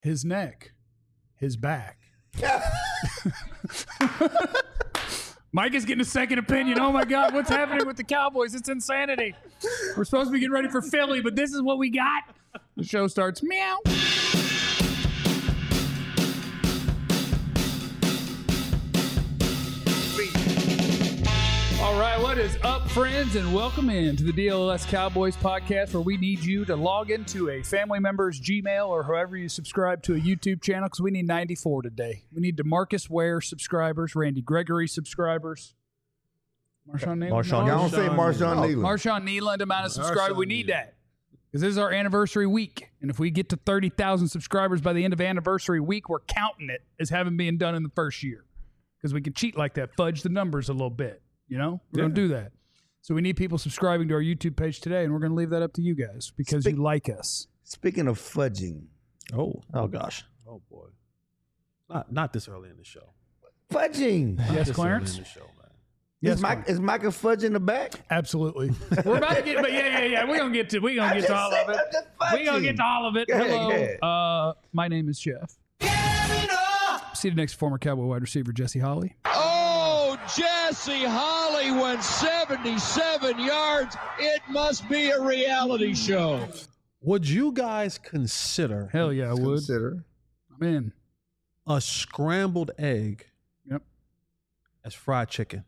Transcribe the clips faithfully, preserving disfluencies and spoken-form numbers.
his neck, his back. Mike is getting a second opinion. Oh my God, what's happening with the Cowboys? It's insanity. We're supposed to be getting ready for Philly, but this is what we got. The show starts. Meow. All right, what is up, friends, and welcome in to the D L S Cowboys podcast, where we need you to log into a family member's Gmail or however you subscribe to a YouTube channel, because we need ninety-four today. We need DeMarcus Ware subscribers, Randy Gregory subscribers, Marshawn Nealon. Marshawn, I don't say Marshawn Nealon. Marshawn Nealon amount of subscribers. We need that because this is our anniversary week, and if we get to thirty thousand subscribers by the end of anniversary week, we're counting it as having been done in the first year, because we can cheat like that, fudge the numbers a little bit. You know, we're yeah. going to do that. So we need people subscribing to our YouTube page today, and we're going to leave that up to you guys because Spe- you like us. Speaking of fudging. Oh, oh gosh. Oh, boy. Not not this early in the show. Fudging. Not yes, this Clarence? Early in the show, man. Yes, is, Mike, is Micah fudging in the back? Absolutely. We're about to get, but yeah, yeah, yeah. We're going to get to, we're going to get to all of it. We're going to get to all of it. Go Hello. ahead, go uh, my name is Jeff. Seated next to former Cowboy wide receiver Jesse Holley. Oh, Jesse Holley went seventy-seven yards. It must be a reality show. Would you guys consider? Hell yeah, I would. Consider. I'm in. A scrambled egg. Yep. As fried chicken.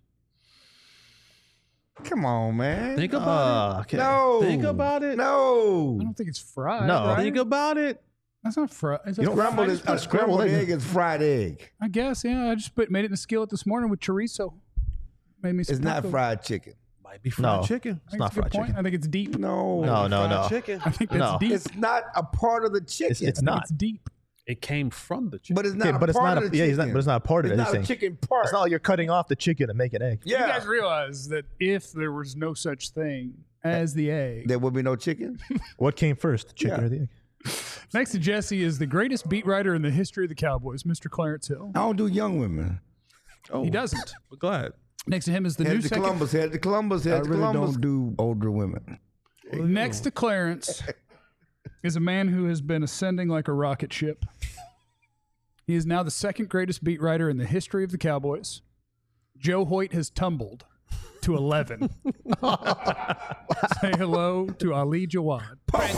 Come on, man. Think about uh, it. Okay. No. Think about it. No. I don't think it's fried. No. Right? Think about it. That's not fried. Is that You know, fried? scrambled is, a scrambled egg, egg is fried egg. I guess, yeah. I just put, made it in the skillet this morning with chorizo. Made me some It's not taco. fried chicken. Might be fried No. chicken. I think It's not a good fried point. chicken. I think it's deep. No. No, no, fried no. Chicken. I think that's No. deep. It's not a part of the chicken. It's, it's I think not. It's deep. It came from the chicken. But it's not Okay, a but it's part not of a the yeah. chicken. It's not, but it's not a part of It's it. not Anything. a chicken part. It's not like you're cutting off the chicken to make an egg. Yeah. You guys realize that if there was no such thing as the egg, There would be no chicken? What came first, the chicken Yeah. or the egg? next to Jesse is the greatest beat writer in the history of the Cowboys, Mister Clarence Hill. I don't do young women. Oh, He doesn't. But go ahead. Next to him is the Head new to second. Columbus. Head to Columbus. Head I to really Columbus. don't do older women. Next to Clarence is a man who has been ascending like a rocket ship. He is now the second greatest beat writer in the history of the Cowboys. Joe Hoyt has tumbled to eleven. Say hello to Ali Jawad.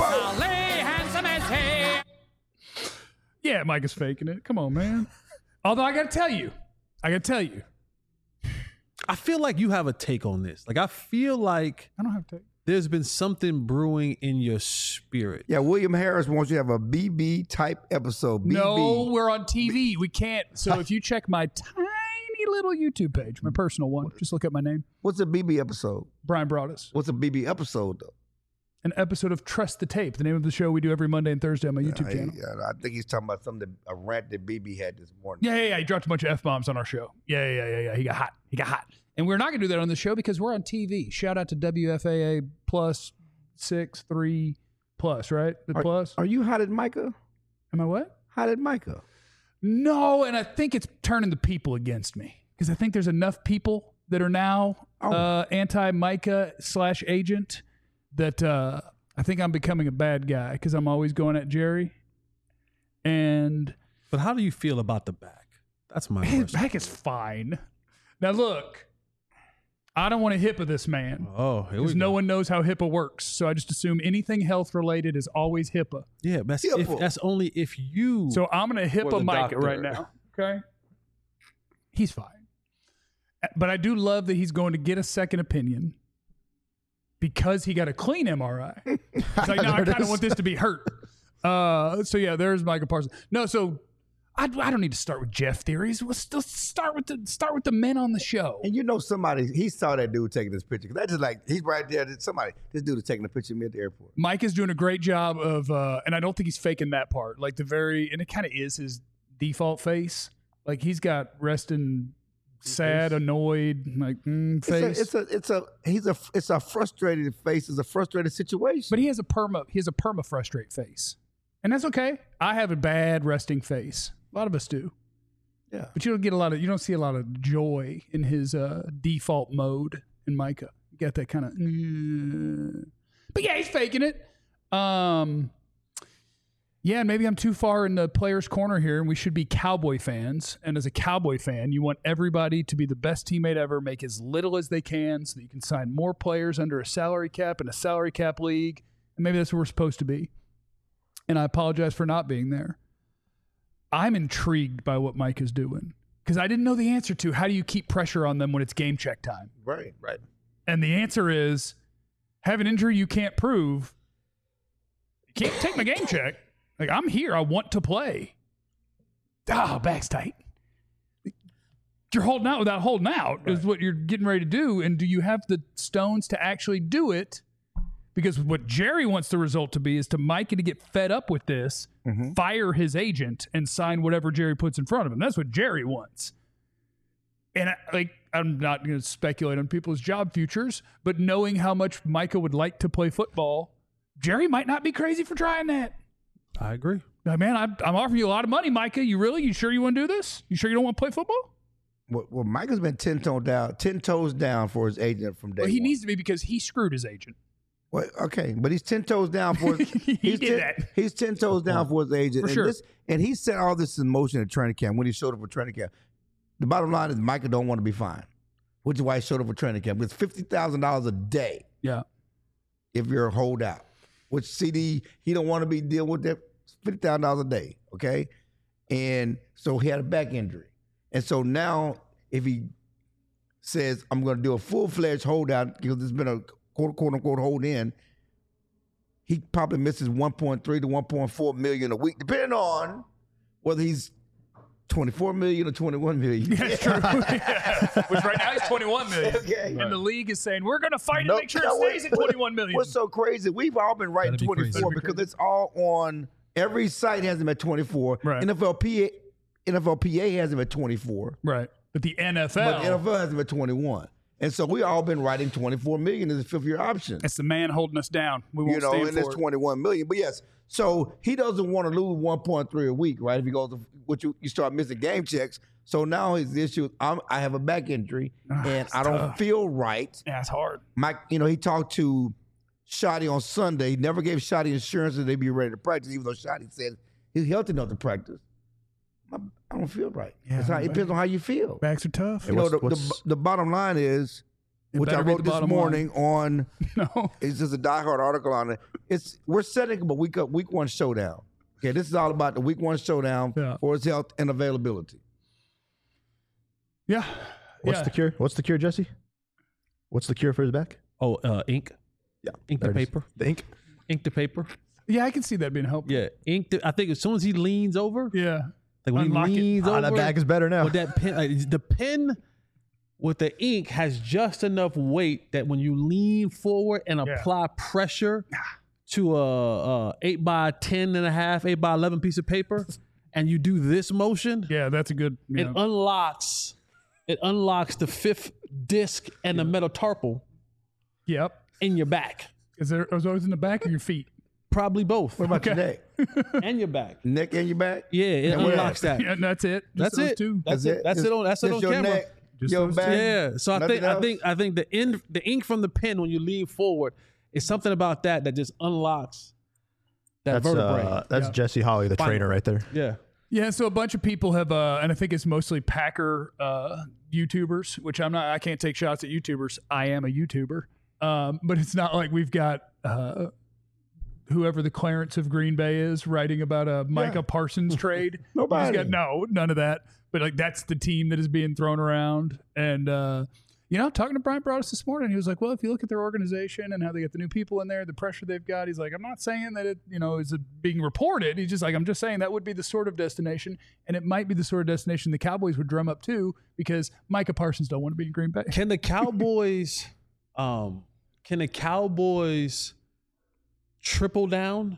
Yeah, Mike is faking it. Come on, man. Although I got to tell you, I got to tell you, I feel like you have a take on this. Like, I feel like I don't have to. there's been something brewing in your spirit. Yeah, William Harris wants you to have a B B type episode. B B. No, we're on T V. We can't. So if you check my tiny little YouTube page, my personal one, just look up my name, What's a B B episode? Brian Broaddus. What's a B B episode, though? An episode of Trust the Tape, the name of the show we do every Monday and Thursday on my YouTube I, channel. I, I think he's talking about something, that, a rant that B B had this morning. Yeah, yeah, yeah. He dropped a bunch of F-bombs on our show. Yeah, yeah, yeah, yeah. He got hot. He got hot. And we're not going to do that on the show because we're on T V. Shout out to W F A A plus six, three plus, right? The Are, plus. are you hot at Micah? Am I what? Hot at Micah? No, and I think it's turning the people against me because I think there's enough people that are now Oh. uh, anti-Micah slash agent that uh, I think I'm becoming a bad guy because I'm always going at Jerry. And But how do you feel about the back? That's my his question. back is fine. Now look, I don't want to HIPAA this man Oh, here we because go. no one knows how HIPAA works. So I just assume anything health related is always HIPAA. Yeah, but that's, if, HIPAA. that's only if you. So I'm going to Or HIPAA the Micah doctor. right now. Okay. He's fine. But I do love that he's going to get a second opinion because he got a clean M R I. It's like, no, I There it kind of is. want this to be hurt. Uh, so yeah, there's Micah Parsons. No, so I, I don't need to start with Jeff theories. Let's, let's start with the start with the men on the show. And you know somebody, he saw that dude taking this picture. That's just like, he's right there. Somebody, this dude is taking a picture of me at the airport. Mike is doing a great job of, uh, and I don't think he's faking that part. Like the very, and it kind of is his default face. Like he's got resting, sad, annoyed, like mm, face. It's a, it's a, it's a, he's a, it's a frustrated face. It's a frustrated situation. But he has a perma, he has a perma frustrate face, and that's okay. I have a bad resting face. A lot of us do. Yeah. But you don't get a lot of, you don't see a lot of joy in his uh, default mode in Micah. You got that kind of, mm. But yeah, he's faking it. Um, Yeah, and maybe I'm too far in the player's corner here, and we should be Cowboy fans. And as a Cowboy fan, you want everybody to be the best teammate ever, make as little as they can so that you can sign more players under a salary cap in a salary cap league. And maybe that's what we're supposed to be. And I apologize for not being there. I'm intrigued by what Mike is doing because I didn't know the answer to how do you keep pressure on them when it's game check time. Right, right. And the answer is have an injury you can't prove. You can't take my game check. Like, I'm here. I want to play. Ah, back's tight. You're holding out without holding out right. is what you're getting ready to do. And do you have the stones to actually do it? Because what Jerry wants the result to be is to Micah to get fed up with this, mm-hmm. fire his agent, and sign whatever Jerry puts in front of him. That's what Jerry wants. And I, like, I'm not going to speculate on people's job futures, but knowing how much Micah would like to play football, Jerry might not be crazy for trying that. I agree. Now, man, I'm, I'm offering you a lot of money, Micah. You really? You sure you want to do this? You sure you don't want to play football? Well, well Micah's been ten toes down, ten toes down for his agent from day Well, he one. needs to be because he screwed his agent. Well, okay, but he's ten toes down for his. he he's did ten, that. He's ten toes down for his agent. For and sure. This, and he set all this in motion at training camp when he showed up for training camp. The bottom line is Micah don't want to be fined, which is why he showed up for training camp. It's fifty thousand dollars a day. Yeah. If you're a holdout, which C D he don't want to be dealing with that. fifty thousand dollars a day, okay? And so he had a back injury. And so now if he says, I'm going to do a full-fledged holdout because there's been a quote-unquote hold in, he probably misses one point three to one point four million a week, depending on whether he's twenty-four million or twenty-one million. That's true. Yeah. Which right now he's twenty-one million. Okay. And the league is saying, we're going to fight Nope. to make sure No, it stays what- at twenty-one million. What's so crazy, we've all been writing That'd be crazy. twenty-four That'd be because it's all on, every site has him at twenty-four. Right. N F L P A, N F L P A has him at twenty-four. Right. But the N F L, But the N F L has him at twenty-one. And so we all been writing twenty-four million as a fifth year option. it's the man holding us down. We won't You know, stand and for it's it. twenty-one million. But yes, so he doesn't want to lose one point three a week, right? If he goes, to, which you, you start missing game checks. So now his issue, I'm, I have a back injury and I don't tough. feel right. Yeah, it's hard. Mike, you know, he talked to Shotty on Sunday. He never gave Shotty insurance that they'd be ready to practice, even though Shotty said he's healthy enough to practice. I, I don't feel right. Yeah, It's how, it depends on how you feel. Backs are tough. You know, what's- the, the, what's- the bottom line is, It which I better be wrote the this bottom morning on, No. it's just a diehard article on it. It's we're setting up a week up week one showdown. Okay, this is all about the week one showdown Yeah. for his health and availability. Yeah. What's yeah. the cure? What's the cure, Jesse? What's the cure for his back? Oh, uh, ink. Yeah, Ink the there it is. paper. The ink. Ink the paper. Yeah, I can see that being helpful. Yeah, ink. The, I think as soon as he leans over, Yeah. like when Unlock it. he leans Ah, over, that bag is better now. with that pen, like, the pen with the ink has just enough weight that when you lean forward and Yeah. apply pressure to a, a eight by ten and a half, eight by eleven piece of paper, and you do this motion, Yeah, that's a good. it Yeah. unlocks. It unlocks the fifth disc and the metatarsal Yep. in your back. Is there? Is always in the back of your feet? Probably both. What about your neck? And your back. Neck and your back? Yeah, it And where unlocks that. Yeah, and that's it. Just That's those it. Two. That's That's it. That's Just- it on. That's it just on your camera. neck, Just your those back. two. Yeah. So I Nothing think I else? think I think the in the ink from the pen when you lean forward is something about that that just unlocks that That's vertebrae. uh, that's Yeah. Jesse Holly, the Spinal. trainer, right there. yeah. Yeah, so a bunch of people have, uh, and I think it's mostly Packer uh, YouTubers, which I'm not. I can't take shots at YouTubers. I am a YouTuber, um, but it's not like we've got uh, whoever the Clarence of Green Bay is writing about a Micah Yeah. Parsons trade. Nobody. He's got, no, none of that. But like that's the team that is being thrown around, and uh, you know, talking to Brian Broaddus this morning, he was like, "Well, if you look at their organization and how they get the new people in there, the pressure they've got, he's like, I'm not saying that it, you know, is being reported. He's just like, I'm just saying that would be the sort of destination, and it might be the sort of destination the Cowboys would drum up too, because Micah Parsons don't want to be in Green Bay. Can the Cowboys, um, can the Cowboys triple down?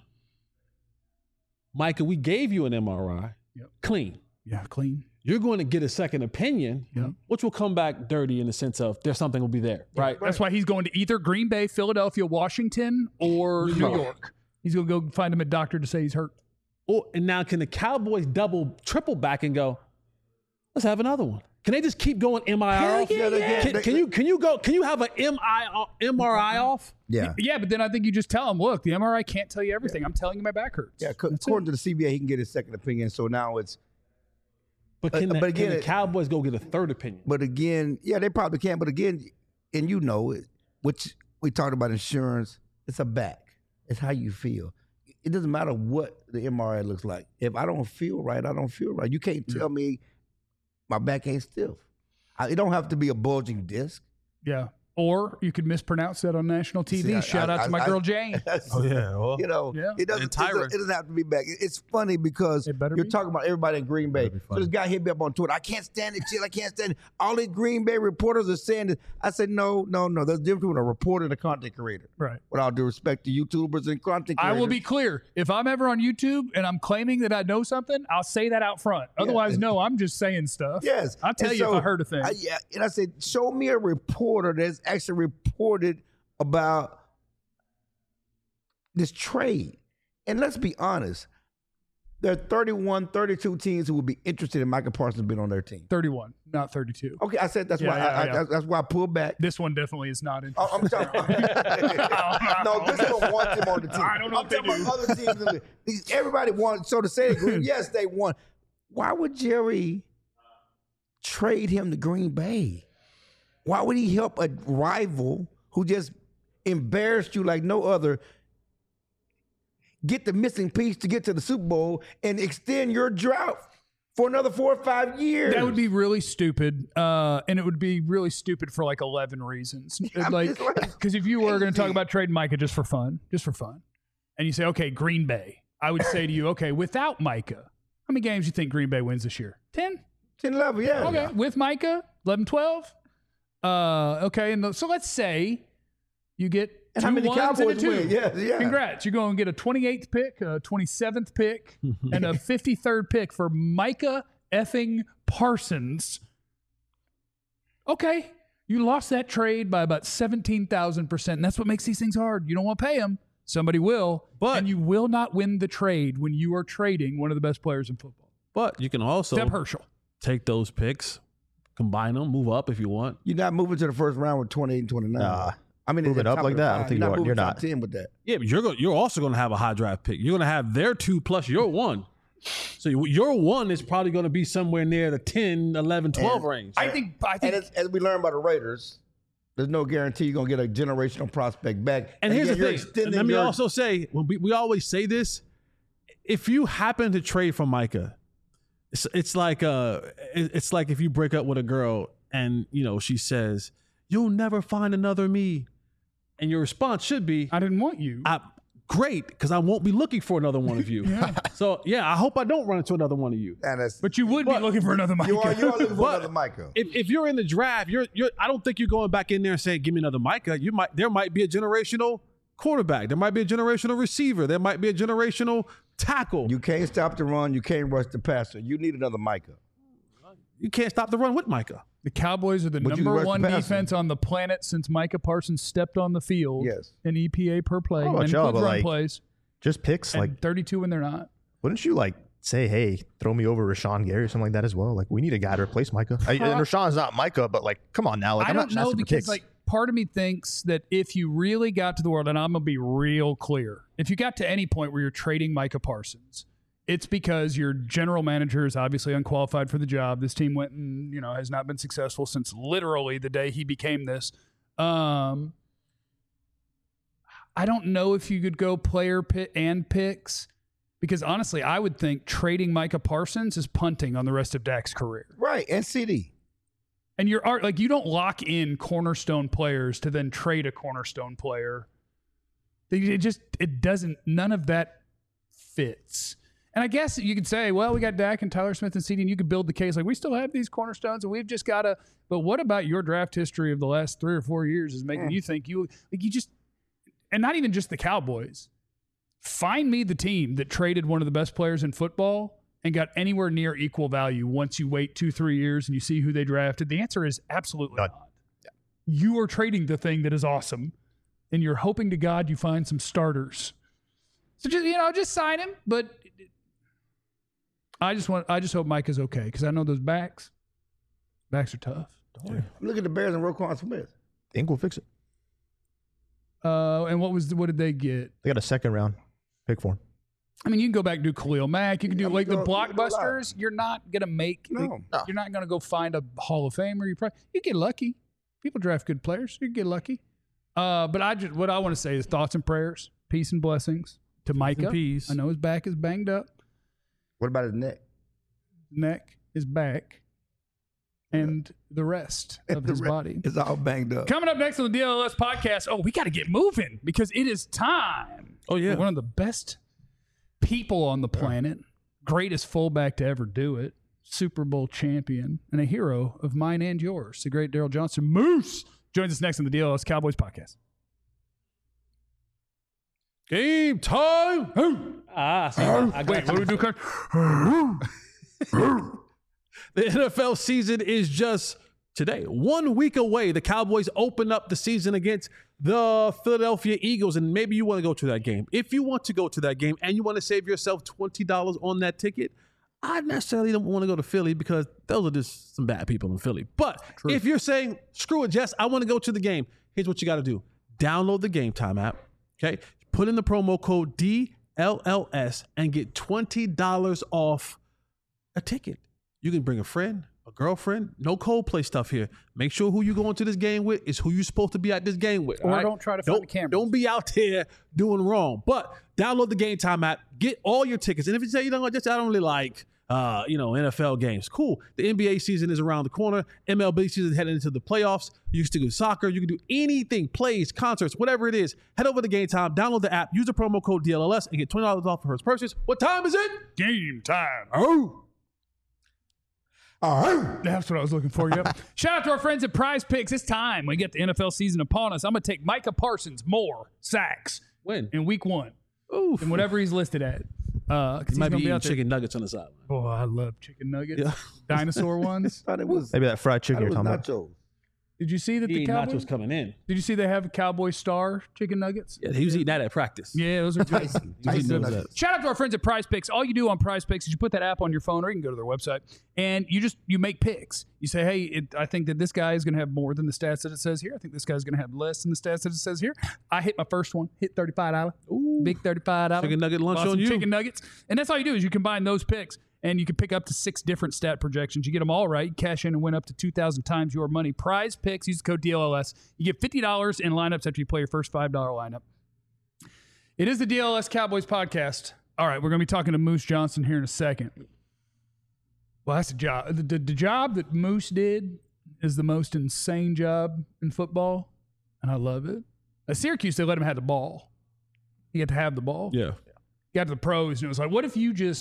Micah, we gave you an M R I, Yep. clean. Yeah, clean. You're going to get a second opinion, Yeah. which will come back dirty in the sense of there's something will be there, right? That's why he's going to either Green Bay, Philadelphia, Washington, or New York. York. He's going to go find him a doctor to say he's hurt. Or, and now can the Cowboys double, triple back and go, let's have another one? Can they just keep going M I R off? yeah, they can. Can, They- can you can you go? Can you have an M I M R I off? Yeah. Yeah, but then I think you just tell them, look, the M R I can't tell you everything. I'm telling you my back hurts. Yeah, co- according to the C B A, he can get his second opinion. So now it's, But can, Uh, the, but again, can the it- Cowboys go get a third opinion? but again, yeah, they probably can. But again, and you know, it, which we talked about insurance, it's a back. It's how you feel. It doesn't matter what the M R I looks like. If I don't feel right, I don't feel right. You can't tell me my back ain't stiff. I, it don't have to be a bulging disc. Yeah. Or you could mispronounce that on national T V. See, I- Shout I- out to I- my I- girl Jane. Oh yeah. Well, You know, Yeah. it doesn't. And It doesn't, Tyra. it doesn't have to be back. It- It's funny because It better you're be. talking about everybody in Green Bay. be So funny. this guy hit me up on Twitter. I can't stand it, shit. I can't stand it. All these Green Bay reporters are saying this. I said, no, no, no. There's a difference between a reporter and a content creator. Right. With all due respect to YouTubers and content I creators. will be clear. If I'm ever on YouTube and I'm claiming that I know something, I'll say that out front. Otherwise, no, I'm just saying stuff. Yes. I'll tell And you so if I heard a thing. I, yeah, and I said, show me a reporter that's actually reported about this trade. And let's be honest, there are thirty-one, thirty-two teams who would be interested in Micah Parsons being on their team. thirty-one, not thirty-two. Okay, I said that's Yeah, why yeah, I, yeah. I, that's why I pulled back. This one definitely is not in. Oh, I'm talking. no, this one wants him on the team. I don't know I'm if they talking do. about other teams. in the- these- Everybody wants. So to say that Green, yes, they won. Why would Jerry trade him to Green Bay? Why would he help a rival who just embarrassed you like no other get the missing piece to get to the Super Bowl and extend your drought for another four or five years? That would be really stupid, uh, and it would be really stupid for like eleven reasons. I'm like, just like, because if you were going to talk crazy. about trading Micah just for fun, just for fun, and you say, okay, Green Bay, I would say to you, okay, without Micah, how many games do you think Green Bay wins this year? ten? ten eleven, yeah. Okay, with Micah, eleven, twelve. Uh, okay, and the, so let's say you get And two how many ones and a Cowboys two. win? Yeah, yeah. Congrats. You're going to get a twenty-eighth pick, a twenty-seventh pick, and a fifty-third pick for Micah effing Parsons. Okay. You lost that trade by about seventeen thousand percent. And that's what makes these things hard. You don't want to pay him. Somebody will. But- and you will not win the trade when you are trading one of the best players in football. But you can also Except Herschel. take those picks, combine them, move up if you want. You're not moving to the first round with twenty-eight and twenty-nine. Nah. I mean, Move at it the up top like of the that? I don't five. think You're you are. moving You're top not. ten with that. Yeah, but you're go, you're also going to have a high draft pick. You're going to have their two plus your one. So you- your one is probably going to be somewhere near the ten, eleven, twelve And- range. I think I think And as, as we learned by the Raiders, there's no guarantee you're gonna get a generational prospect back. And here's again, the you're thing. extending Let me your- also say, when we, we always say this, if you happen to trade for Micah, it's, it's like uh, it- it's like if you break up with a girl and you know she says, "You'll never find another me," and your response should be, I didn't want you. I, "Great, because I won't be looking for another one of you." So yeah, I hope I don't run into another one of you. And that's, But you would be But- looking for another Micah. you are you are looking for But- another Micah. If, if you're in the draft, you're you're. I don't think you're going back in there and saying, "Give me another Micah." You might. There might be a generational quarterback. There might be a generational receiver. There might be a generational tackle. You can't stop the run. You can't rush the passer. You need another Micah. You can't stop the run with Micah. The Cowboys are the But you number rush the one passer. defense on the planet since Micah Parsons stepped on the field. Yes. In E P A per play. I don't know and about y'all, includes but, run like, plays. Just picks. And Like, thirty-two when they're not. wouldn't you like say, hey, throw me over Rashawn Gary or something like that as well? Like, we need a guy to replace Micah. I, and Rashawn's not Micah, but like, come on now. Like, I I'm don't not just know asking for because picks. like part of me thinks that if you really got to the world, and I'm gonna be real clear, if you got to any point where you're trading Micah Parsons, it's because your general manager is obviously unqualified for the job. This team went and you know has not been successful since literally the day he became this. Um, I don't know if you could go player pit and picks. Because honestly, I would think trading Micah Parsons is punting on the rest of Dak's career. Right. And C D. And you're art like you don't lock in cornerstone players to then trade a cornerstone player. It just it doesn't. None of that fits. And I guess you could say, well, we got Dak and Tyler Smith and C D, and you could build the case like we still have these cornerstones, and we've just got to. But what about your draft history of the last three or four years is making Mm. you think you like you just, and not even just the Cowboys. Find me the team that traded one of the best players in football and got anywhere near equal value once you wait two, three years and you see who they drafted. The answer is absolutely None. not. You are trading the thing that is awesome, and you're hoping to God you find some starters. So just you know, just sign him. But I just want, I just hope Mike is okay because I know those backs. Backs are tough. Look at the Bears and Roquan Smith. Think we'll fix it. Uh, and what was the, what did they get? They got a second round pick for him. I mean, you can go back and do Khalil Mack. You can do Yeah, like you the go- you go live. blockbusters. You're not gonna make. No. No. You're not gonna go find a Hall of Famer. You probably you get lucky. People draft good players. You get lucky. Uh, but I just what I want to say is thoughts and prayers, peace and blessings to Micah. peace. I know his back is banged up. What about his neck? Neck, his back, and the rest of The his re- body. It's all banged up. Coming up next on the D L L S podcast. Oh, we got to get moving because it is time. Oh, yeah. for one of the best people on the planet, greatest fullback to ever do it, Super Bowl champion, and a hero of mine and yours, the great Daryl Johnson. Moose joins us next on the D L L S Cowboys podcast. Game time. Ah, see, I got Wait, what do we do? Kirk? The N F L season is just today, one week away. The Cowboys open up the season against the Philadelphia Eagles, and maybe you want to go to that game. If you want to go to that game and you want to save yourself twenty dollars on that ticket, I necessarily don't want to go to Philly because those are just some bad people in Philly. But if you're saying, screw it, Jess, I want to go to the game, here's what you got to do. Download the Game Time app, okay? Put in the promo code D L L S and get twenty dollars off a ticket. You can bring a friend, a girlfriend. No Coldplay stuff here. Make sure who you going to this game with is who you're supposed to be at this game with. Or all right? don't try to find don't, the cameras. Don't be out there doing wrong. But download the Game Time app. Get all your tickets. And if you say, you know what, just I don't really like, uh, you know, N F L games. Cool. The N B A season is around the corner. M L B season is heading into the playoffs. You can do soccer. You can do anything, plays, concerts, whatever it is. Head over to Game Time. Download the app. Use the promo code D L L S and get twenty dollars off for first purchase. What time is it? Game time. Oh. All right. That's what I was looking for. Yep. Shout out to our friends at Prize Picks. It's time. We get the N F L season upon us. I'm going to take Micah Parsons more sacks When? in week one Oof. and whatever he's listed at. Uh, 'cause He he's might gonna be be eating out there. chicken nuggets on the sideline. Oh, I love chicken nuggets. Yeah. Dinosaur ones. Thought it was. Maybe that fried Thought chicken it you're was talking about. nachos. Did you see that He the eating Cowboys? nachos coming in. Did you see they have a Cowboy Star chicken nuggets? Yeah, he was eating that at practice. Yeah, those are good. Tyson. He was eating Tyson those nuggets. at- Shout out to our friends at Prize Picks. All you do on Prize Picks is you put that app on your phone, or you can go to their website, and you just you make picks. You say, hey, it, I think that this guy is going to have more than the stats that it says here. I think this guy's going to have less than the stats that it says here. I hit my first one, hit thirty-five dollars. Ooh. Big thirty-five dollars. Chicken nugget lunch Bought on some you. Chicken nuggets. And that's all you do is you combine those picks, and you can pick up to six different stat projections. You get them all right, cash in and win up to two thousand times your money. Prize Picks, use the code D L L S. You get fifty dollars in lineups after you play your first five dollars lineup. It is the D L L S Cowboys podcast. All right, we're going to be talking to Moose Johnson here in a second. Well, that's the job. The, the, the job that Moose did is the most insane job in football, and I love it. At Syracuse, they let him have the ball. He had to have the ball. Yeah. Got to the pros, and it was like, what if you just...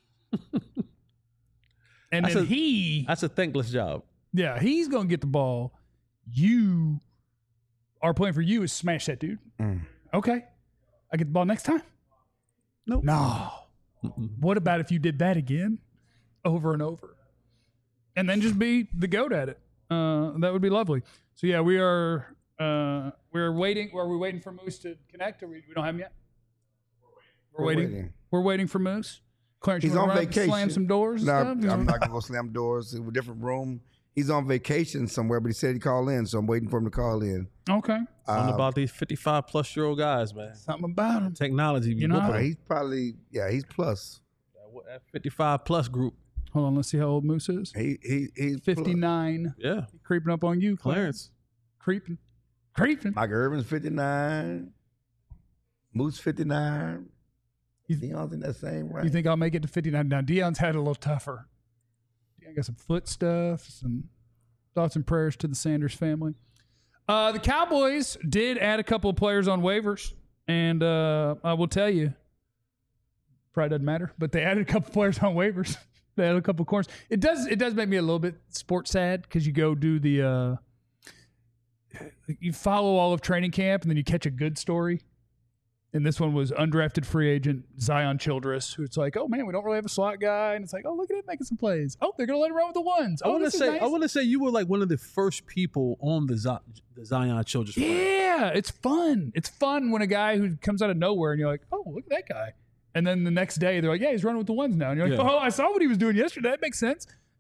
and That's then a- he... That's a thankless job. Yeah, he's going to get the ball. You... Our plan for you is smash that dude. Mm. Okay. I get the ball next time. Nope. No. What about if you did that again over and over? And then just be the goat at it. Uh, that would be lovely. So, yeah, we are uh, we're waiting. Are we waiting for Moose to connect? Or we, we don't have him yet? We're, We're waiting. waiting. We're waiting for Moose. Clarence, He's you wanna on run up and vacation. Slam some doors. No, and stuff? I'm not gonna go slam doors. In a different room. He's on vacation somewhere, but he said he'd call in, so I'm waiting for him to call in. Okay. Something Uh, about these fifty-five plus year old guys, man. Something about him. Technology, be You know, whooping uh, them. he's probably yeah, he's plus. That fifty-five plus group. Hold on. Let's see how old Moose is. He he he's plus. fifty-nine. Yeah. Creeping up on you, Clarence. Clarence. Creeping. Creeping. Mike Irvin's fifty-nine. Moose fifty-nine. You- Deion's in that same range. You think I'll make it to fifty-nine? Now, Deion's had it a little tougher. Deion got some foot stuff, some thoughts and prayers to the Sanders family. Uh, the Cowboys did add a couple of players on waivers, and uh, I will tell you, probably doesn't matter, but they added a couple players on waivers. They added a couple of corners. It does it does make me a little bit sports sad because you go do the uh, you follow all of training camp and then you catch a good story. And this one was undrafted free agent Zion Childress, who it's like, oh man, we don't really have a slot guy, and it's like, oh look at him making some plays. Oh, they're gonna let him run with the ones. I Oh, want to this is say, nice. I want to say, you were like one of the first people on the, Z- the Zion Childress. plan. Yeah, it's fun. It's fun when a guy who comes out of nowhere and you're like, oh, look at that guy. And then the next day they're like, yeah, he's running with the ones now. And you're like, Yeah. oh, I saw what he was doing yesterday. That makes sense.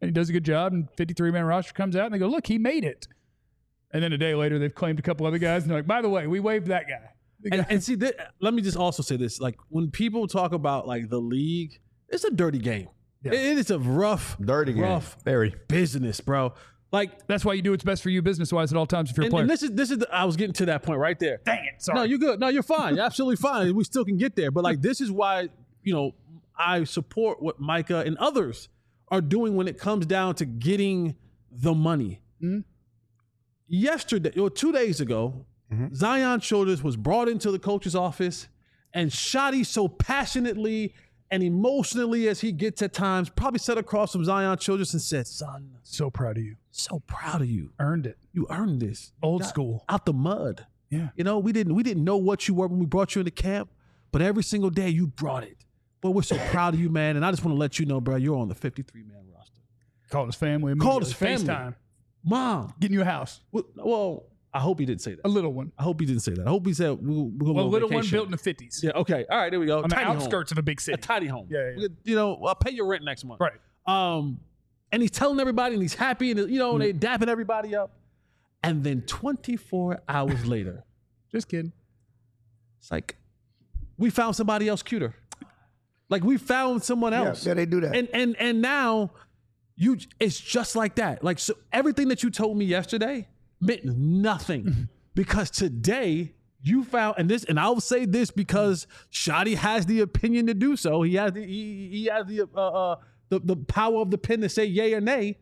and he does a good job, and fifty-three man roster comes out, and they go, look, he made it. And then a day later, they've claimed a couple other guys, and they're like, by the way, we waived that guy. And, and see, th- let me just also say this: like when people talk about like the league, it's a dirty game. Yeah. It, it is a rough, Dirty game. rough Very. business, bro. Like, That's why you do what's best for you business-wise at all times if you're a and, player. and this is this is the, I was getting to that point right there. Dang it, sorry. No, you're good. No, you're fine. You're absolutely fine. We still can get there. But like, this is why, you know, I support what Micah and others are doing when it comes down to getting the money. Mm-hmm. Yesterday, or two days ago, mm-hmm. Zion Childress was brought into the coach's office, and Shotty so passionately and emotionally as he gets at times, probably sat across from Zion Childress and said, son, So proud of you. so proud of you. Earned it. You earned this. Old Got school. Out the mud. Yeah. You know, we didn't we didn't know what you were when we brought you into camp, but every single day you brought it. But we're so proud of you, man. And I just want to let you know, bro, you're on the fifty-three man roster. Called his family. Called his immediately. family. FaceTime. Mom. Getting you a house. Well, well, I hope he didn't say that. A little one. I hope he didn't say that. I hope he said we're, we're going Well, a on little vacation. one built in the fifties. Yeah, okay. All right, there we go. On the Tiny home. outskirts of a big A city. tiny home. Yeah, yeah, yeah. You know, I'll pay your rent next month. Right. Um, and he's telling everybody, and he's happy, and you know, they dapping everybody up. And then twenty-four hours later, Just kidding. it's like we found somebody else cuter. Like we found someone Yeah, else. yeah, they do that. And and and now you, it's just like that. Like so, everything that you told me yesterday meant nothing because today you found, and this, and I'll say this because Shotty has the opinion to do so. He has the he, he has the uh, uh the the power of the pen to say yay or nay,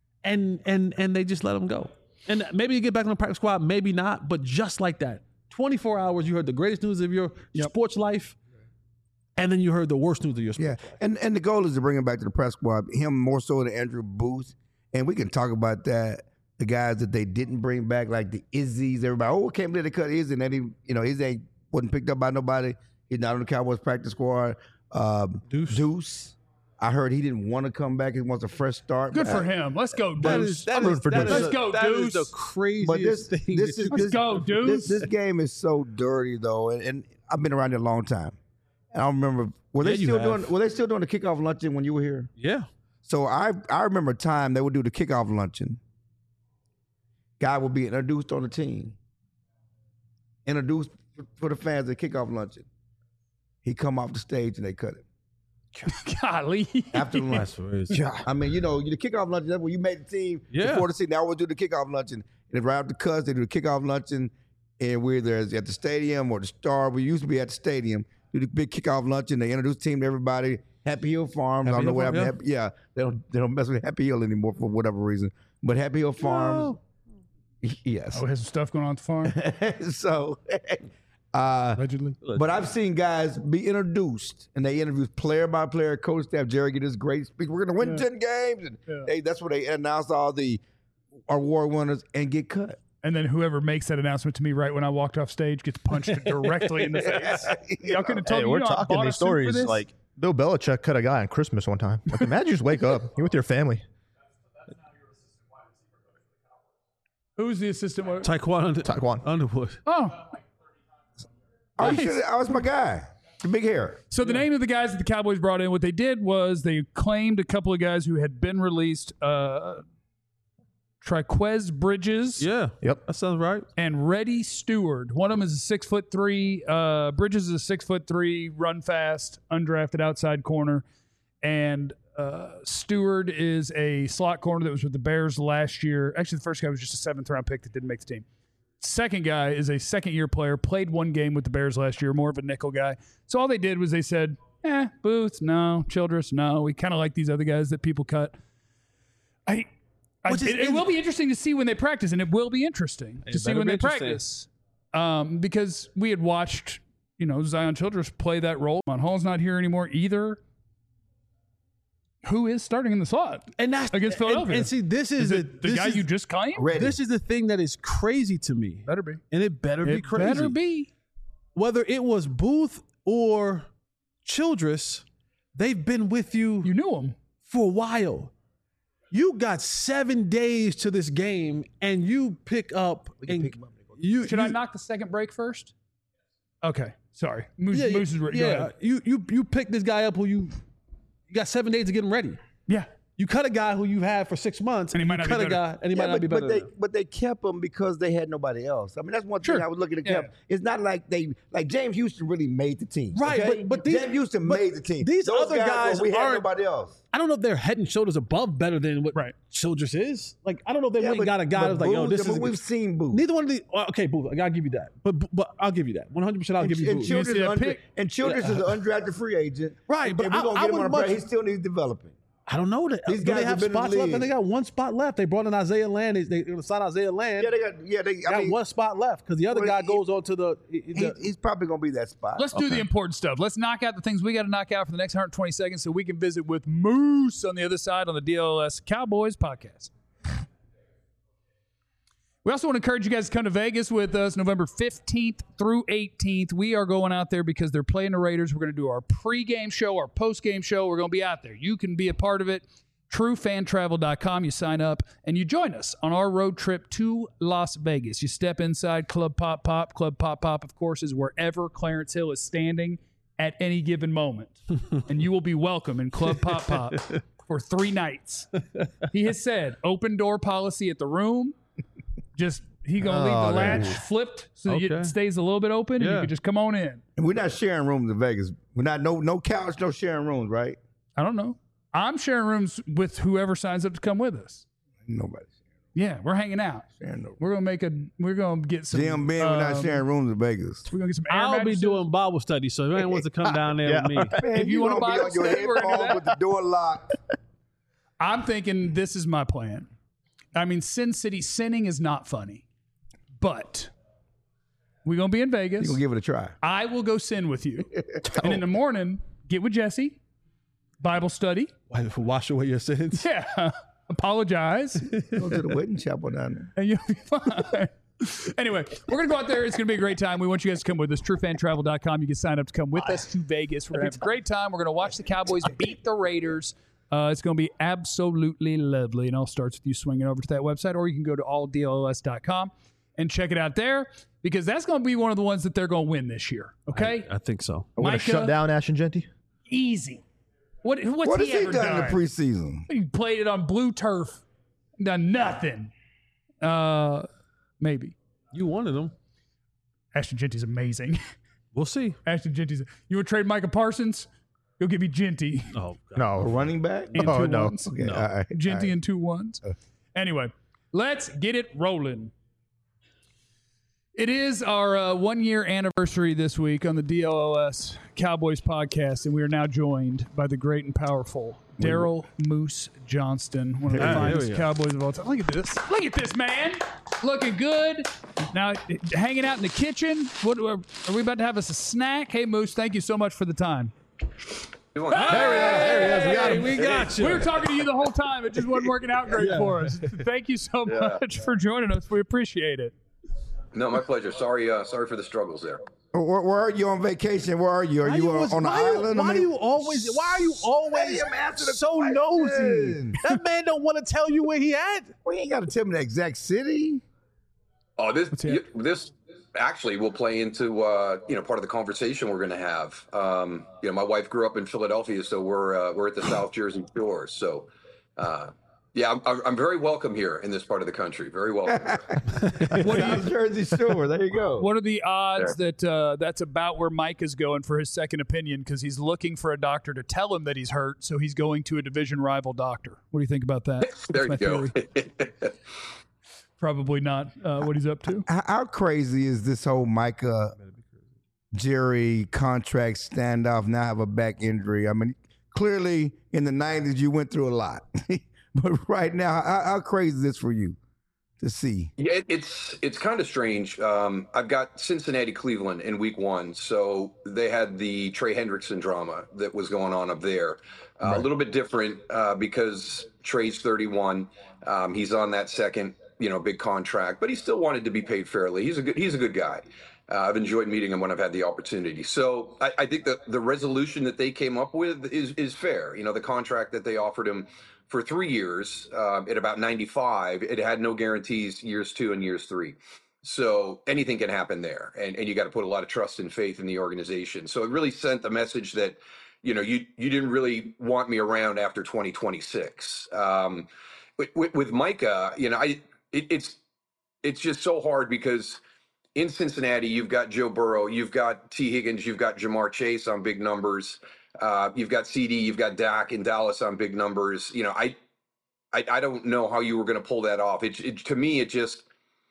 and and and they just let him go. And maybe you get back on the practice squad, maybe not, but just like that, twenty-four hours, you heard the greatest news of your Yep. sports life, and then you heard the worst news of your sports Yeah, life. and and the goal is to bring him back to the press squad. Him more so than Andrew Booth, and we can talk about that. The guys that they didn't bring back, like the Izzy's, everybody. Oh, can't believe they cut Izzy, and then he, you know, Izzy ain't wasn't picked up by nobody. He's not on the Cowboys practice squad. Um, Deuce. Deuce. I heard he didn't want to come back. He wants a fresh start. Good but for I- him. Let's go, That Deuce. is, that I'm is, rooting for that Deuce. is- Let's go, that is Deuce. the craziest But this, thing. this that is you- Let's go, Deuce. This, this game is so dirty though, and, and I've been around here a long time. And I remember were they Yeah, you still have. doing were they still doing the kickoff luncheon when you were here? yeah. So I I remember a time they would do the kickoff luncheon. Guy would be introduced on the team, introduced for, for the fans at kickoff luncheon. He come off the stage and they cut him Golly. after the lunch. crazy. I mean, you know, the kickoff luncheon. That's when you made the team Yeah. before the season. They always do the kickoff luncheon, and right after the cuts, they do the kickoff luncheon, and we're there at the stadium or the Star. We used to be at the stadium. Do the big kickoff luncheon. They introduce the team to everybody. Happy Hill Farms. I Happy don't know Hill what Farm, happened. to Happy, yeah, they don't they don't mess with Happy Hill anymore for whatever reason. But Happy Hill Farms. Yes. Oh, has some stuff going on at the farm, so, uh, allegedly. but I've seen guys be introduced, and they interview player by player, coach staff. Jerry get this great speech. We're going to win Yeah. ten games, and Yeah. they, that's where they announce all the award winners and get cut. And then whoever makes that announcement to me right when I walked off stage gets punched directly in the face. Y'all could have told Hey, me. we're you know, I talking bought a these suit for stories this. like Bill Belichick cut a guy on Christmas one time. Like, imagine you just wake up, you're with your family. Who's the assistant? What- Taekwon Under- Taekwon. Underwood. Oh, Oh, you Nice. should- I was my guy, the big hair. so the name of the guys that the Cowboys brought in, what they did was they claimed a couple of guys who had been released, uh, Triquez Bridges Yeah. Yep. That sounds right. and Reddy Stewart. One of them is a six foot three. Uh, Bridges is a six foot three, run fast, undrafted outside corner, and uh, Stewart is a slot corner that was with the Bears last year. Actually, the first guy was just a seventh round pick that didn't make the team. Second guy is a second year player, played one game with the Bears last year, more of a nickel guy. So all they did was they said, eh, Booth, no, Childress, no. We kind of like these other guys that people cut. I, I Which is- it, it will be interesting to see when they practice, and it will be interesting to It see better when be they interesting. practice. Um, because we had watched, you know, Zion Childress play that role. Mon Hall's not here anymore either. Who is starting in the slot? And that's Against and- Philadelphia. And, see, this Is is, the, it the this guy is, you just claimed? Ready. This is the thing that is crazy to me, Better be. and it better be It crazy. better be. Whether it was Booth or Childress, they've been with you, You knew him. for a while. You got seven days to this game, and you pick up. And pick 'em up. You Should you, I knock the second break first? Okay. Sorry. Moose, Yeah, Moose is ready. yeah. Go ahead. You you you pick this guy up who you you got seven days to get him ready. Yeah. You cut a guy who you had for six months, And he you might not be cut a better. guy, and he Yeah, might not but, be better. but they than him. but they kept him because they had nobody else. I mean, that's one thing Sure. I was looking at. Yeah. Kept. It's not like they like James Houston really made the team, Right, okay? but- but these- James Houston but made the team. these Those other guys were- we had aren't- nobody else. I don't know if they're head and shoulders above better than what Right. Childress is. Like, I don't know if they Yeah, went and but- got a guy but that's like, yo, Booth, this I mean, is. a we've good- seen Booth. Neither one of the. uh, Okay, Booth, I gotta give you that. But but I'll give you that. one hundred percent I'll And, give you and Booth. Childress, see is that under, pick? and Childress is an undrafted free agent. Right, and, but and we're I- gonna I get him would on a break. much- He still needs developing. I don't know that. These Do guys they have have been in the spots left? league. And they got one spot left. They brought in Isaiah Land. They, they signed Isaiah Land. Yeah, they got. Yeah, they. I got mean, one spot left because the other well, guy he- goes on to the. he, the he's probably gonna be that spot. Let's do the important stuff. Let's knock out the things we got to knock out for the next one hundred twenty seconds so we can visit with Moose on the other side on the D L S Cowboys podcast. We also want to encourage you guys to come to Vegas with us November fifteenth through eighteenth. We are going out there because they're playing the Raiders. We're going to do our pregame show, our postgame show. We're going to be out there. You can be a part of it. true fan travel dot com. You sign up and you join us on our road trip to Las Vegas. You step inside Club Pop Pop. Club Pop Pop, of course, is wherever Clarence Hill is standing at any given moment. And you will be welcome in Club Pop Pop for three nights. He has said open door policy at the room. Just he gonna leave Oh, the latch man. flipped so that Okay. it stays a little bit open and you Yeah. can just come on in. And we're not sharing rooms in Vegas. We're not no no couch, no sharing rooms, right? I don't know. I'm sharing rooms with whoever signs up to come with us. Nobody Yeah, we're hanging out. sharing no. We're gonna make a. We're gonna get some. Jim Ben, we're not um, sharing rooms in Vegas. We're gonna get some. Air I'll be mattresses. doing Bible study, so if anyone wants to come down there Yeah. with me. Man, If you wanna gonna buy be on your study, we're gonna do headphones that. with the door locked. I'm thinking this is my plan. I mean, Sin City sinning is not funny, but we're gonna be in Vegas. You gonna give it a try? I will go sin with you, and in the morning get with Jesse, Bible study. Wash away your sins. Yeah, apologize, Go to the wedding chapel down there. and you'll be fine. Anyway, we're going to go out there. It's going to be a great time. We want you guys to come with us. true fan travel dot com. You can sign up to come with us to Vegas. We're going to have a great time. We're going to watch the Cowboys beat the Raiders. Uh, it's going to be absolutely lovely. And it all starts with you swinging over to that website, or you can go to all D L S dot com and check it out there because that's going to be one of the ones that they're going to win this year. Okay? I think so. We're gonna Micah- shut down Ashton Genty. Easy. What, what's What has he he ever done done? in the preseason? He played it on blue turf. Done nothing. Uh, maybe. You wanted them. Ashton Genty's amazing. We'll see. Ashton Genty's. You want to trade Micah Parsons? He'll give you Genty Oh, A No. running back? and Oh, two no. ones. Okay, No. all right. Genty all right. and two ones. Anyway, let's get it rolling. It is our uh, one year anniversary this week on the D L S Cowboys podcast, and we are now joined by the great and powerful Daryl Moose Johnston, one of the Yeah, finest there we go. Cowboys of all time. Look at this. Look at this, man. Looking good. Now, hanging out in the kitchen. What Are we about to have us a snack? Hey, Moose, thank you so much for the time. There he is. There he is. We got him. we got you. We were talking to you the whole time. It just wasn't working out great for us. Thank you so Yeah. much for joining us. We appreciate it. No, my pleasure. Sorry, uh, sorry for the struggles there. Where, where are you on vacation? Where are you? Are Why you, you on, always- on the why you- island? Why I do mean- you always? Why are you always Let him answer the so question. nosy? That man don't want to tell you where he at. Well, you ain't got to tell me the exact city. Oh, this hear it. this actually will play into uh, you know part of the conversation we're going to have. Um, you know, my wife grew up in Philadelphia, so we're uh, we're at the South Jersey Shore. So, uh, yeah, I'm, I'm I'm very welcome here in this part of the country. Very welcome. What do you, South Jersey Shore. There you go. what are the odds that uh, that's about where Mike is going for his second opinion? Because he's looking for a doctor to tell him that he's hurt, so he's going to a division rival doctor. What do you think about that? there That's you my go. theory. Probably not uh, what he's up to. How, how crazy is this whole Micah Jerry contract standoff? Now have a back injury. I mean, clearly in the nineties you went through a lot, but right now, how, how crazy is this for you to see? Yeah, it, it's it's kind of strange. Um, I've got Cincinnati, Cleveland in week one, so they had the Trey Hendrickson drama that was going on up there. Uh, A little bit different uh, because Trey's thirty-one. Um, he's on that second, you know, big contract, but he still wanted to be paid fairly. He's a good he's a good guy. Uh, I've enjoyed meeting him when I've had the opportunity. So I, I think that the resolution that they came up with is is fair. You know, the contract that they offered him for three years uh, at about ninety-five, it had no guarantees years two and years three. So anything can happen there. And, and you got to put a lot of trust and faith in the organization. So it really sent the message that, you know, you you didn't really want me around after twenty twenty-six. Um, with, with, with Micah, you know, I it, it's it's just so hard because in Cincinnati, you've got Joe Burrow, you've got T. Higgins, you've got Jamar Chase on big numbers, uh, you've got C D, you've got Dak in Dallas on big numbers. You know, I I, I don't know how you were going to pull that off. It, it to me, it just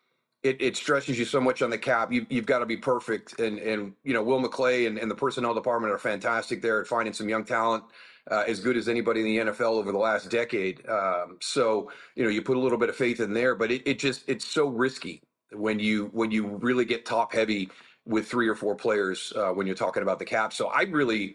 it, it stresses you so much on the cap. You, you've got to be perfect. And, and you know, Will McClay and, and the personnel department are fantastic there at finding some young talent, uh, as good as anybody in the N F L over the last decade. Um, so, you know, you put a little bit of faith in there, but it, it just, it's so risky when you, when you really get top heavy with three or four players, uh, when you're talking about the cap. So I really,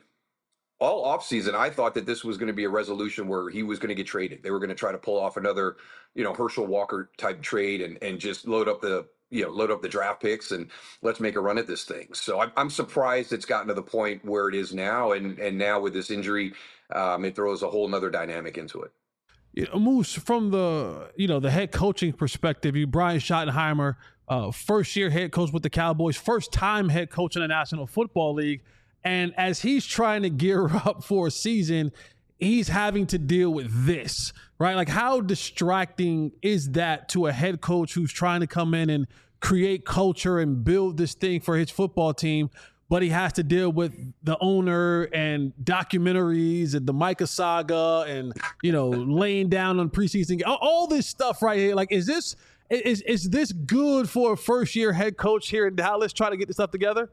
all offseason, I thought that this was going to be a resolution where he was going to get traded. They were going to try to pull off another, you know, Herschel Walker type trade and and just load up the, you know, load up the draft picks and let's make a run at this thing. So I'm, I'm surprised it's gotten to the point where it is now. And and now with this injury, um, it throws a whole nother dynamic into it. You know, Moose, from the, you know, the head coaching perspective, you, Brian Schottenheimer, uh, first year head coach with the Cowboys, first time head coach in the National Football League. And as he's trying to gear up for a season, he's having to deal with this, right? Like, how distracting is that to a head coach who's trying to come in and create culture and build this thing for his football team, but he has to deal with the owner and documentaries and the Micah saga and, you know, laying down on preseason, all, all this stuff right here. Like, is this is is this good for a first year head coach here in Dallas trying to get this stuff together?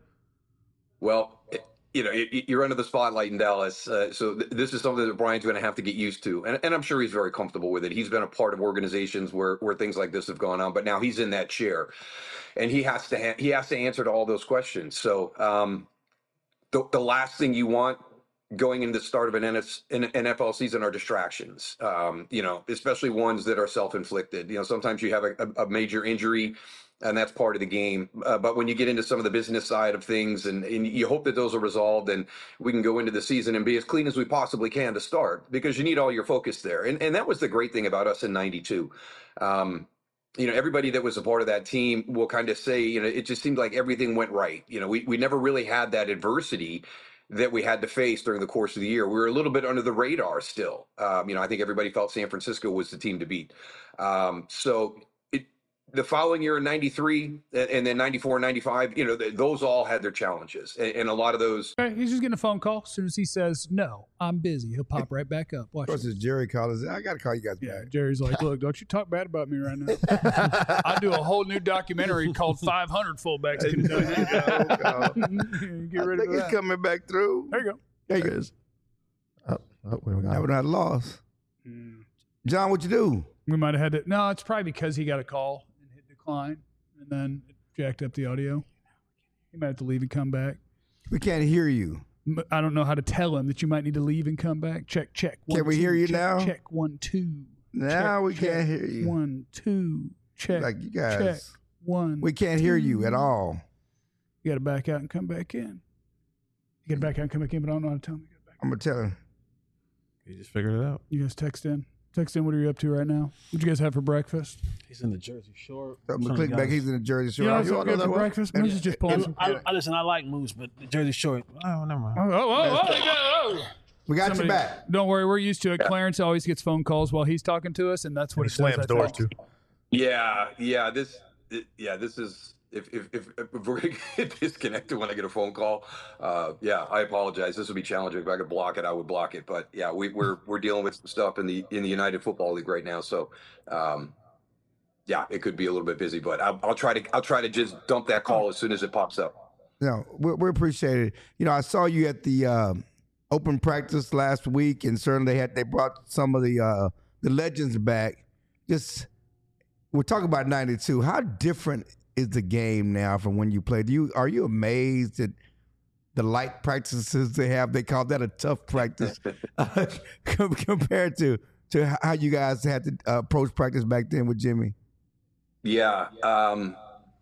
Well, you know, you're under the spotlight in Dallas. Uh, so th- this is something that Brian's going to have to get used to. And, and I'm sure he's very comfortable with it. He's been a part of organizations where, where things like this have gone on, but now he's in that chair and he has to, ha- he has to answer to all those questions. So um, the, the last thing you want going into the start of an N F L season are distractions, um, you know, especially ones that are self-inflicted. You know, sometimes you have a, a major injury, and that's part of the game. Uh, but when you get into some of the business side of things, and, and you hope that those are resolved and we can go into the season and be as clean as we possibly can to start, because you need all your focus there. And, and that was the great thing about us in ninety-two. Um, you know, everybody that was a part of that team will kind of say, you know, it just seemed like everything went right. You know, we, we never really had that adversity that we had to face during the course of the year. We were a little bit under the radar still. Um, you know, I think everybody felt San Francisco was the team to beat. Um, so it, the following year in ninety-three and then ninety-four and ninety-five, you know, th- those all had their challenges. And, and a lot of those. Right, he's just getting a phone call. As soon as he says, no, I'm busy, he'll pop right back up. Watch Of course, this. it's Jerry Collins. I got to call you guys Yeah, back. Jerry's like, look, don't you talk bad about me right now. I do a whole new documentary called five hundred Fullbacks Can Do It. Get I rid think of it's that. coming back through. There you go. There you go. Oh, oh, we got I it. would not lost. Mm. John, what you do? We might have had to. No, it's probably because he got a call and hit decline, and then it jacked up the audio. He might have to leave and come back. We can't hear you. M- I don't know how to tell him that you might need to leave and come back. Check, check. One, Can we two, hear you check, now? Check one, two. Now Check, we check. can't hear you. One, two. Check. Like you guys. Check. One. We can't hear you at two. all. You got to back out and come back in. You got to back out and come back in, but I don't know how to tell him. You got to back. I'm going to tell him. You just figured it out. You guys text in. Text in. What are you up to right now? What'd you guys have for breakfast? He's in the Jersey Shore. I'm going to click back. He's in the Jersey Shore. You know I- what's so wanna good know for that one? breakfast? And- Moose is just pulling some. I, I, listen, I like Moose, but the Jersey Shore. Oh, never mind. Oh, oh, oh, oh, oh. We got Somebody- you back. Don't worry, we're used to it. Clarence always gets phone calls while he's talking to us, and that's what And he it does, slams I doors think. too. Yeah, yeah, this, it, yeah, this is, if, if, if, if we're going to get disconnected when I get a phone call, uh, yeah, I apologize. This would be challenging. If I could block it, I would block it. But yeah, we, we're, we're dealing with some stuff in the, in the United Football League right now. So, um, yeah, it could be a little bit busy, but I'll, I'll try to, I'll try to just dump that call as soon as it pops up. No, we, we appreciate it. You know, I saw you at the uh, open practice last week, and certainly they had they brought some of the uh, the legends back. Just we're talking about ninety-two. How different is the game now from when you played? Do you are you amazed at the light practices they have? They call that a tough practice uh, compared to to how you guys had to uh, approach practice back then with Jimmy. Yeah. Um,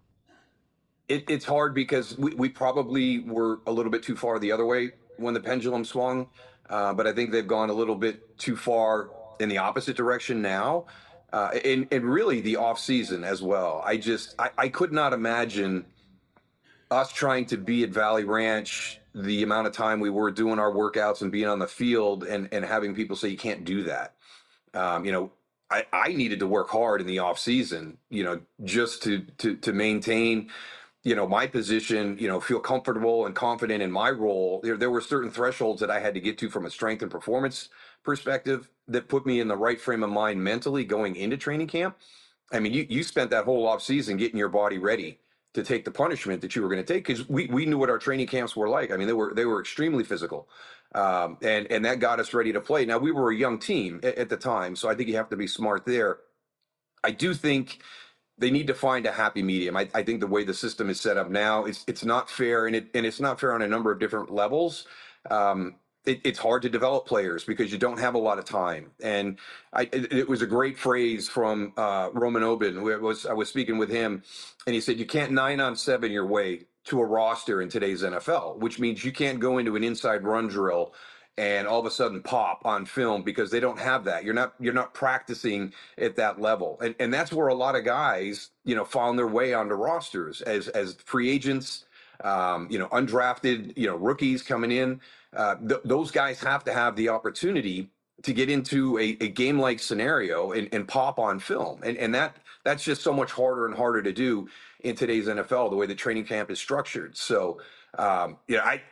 it, it's hard because we, we probably were a little bit too far the other way when the pendulum swung. Uh, but I think they've gone a little bit too far in the opposite direction now. Uh, and, and really the off season as well. I just, I, I could not imagine us trying to be at Valley Ranch the amount of time we were doing our workouts and being on the field and, and having people say you can't do that. Um, you know, I, I needed to work hard in the off season, you know, just to, to, to maintain, you know, my position, you know, feel comfortable and confident in my role. There, there were certain thresholds that I had to get to from a strength and performance perspective that put me in the right frame of mind mentally going into training camp. I mean, you, you spent that whole off season getting your body ready to take the punishment that you were going to take, because we, we knew what our training camps were like. I mean, they were they were extremely physical, um, and and that got us ready to play. Now, we were a young team at, at the time, so I think you have to be smart there. I do think they need to find a happy medium. I, I think the way the system is set up now, it's it's not fair, and it and it's not fair on a number of different levels. Um, It, it's hard to develop players because you don't have a lot of time. And I, it, it was a great phrase from uh, Roman Obin. Where it was, I was speaking with him, and he said, you can't nine on seven your way to a roster in today's N F L, which means you can't go into an inside run drill and all of a sudden pop on film, because they don't have that. You're not you're not practicing at that level. And and that's where a lot of guys, you know, found their way onto rosters as as free agents, um, you know, undrafted, you know, rookies coming in. Uh, th- those guys have to have the opportunity to get into a, a game-like scenario and, and pop on film. And, and that that's just so much harder and harder to do in today's N F L, the way the training camp is structured. So, um, you know, I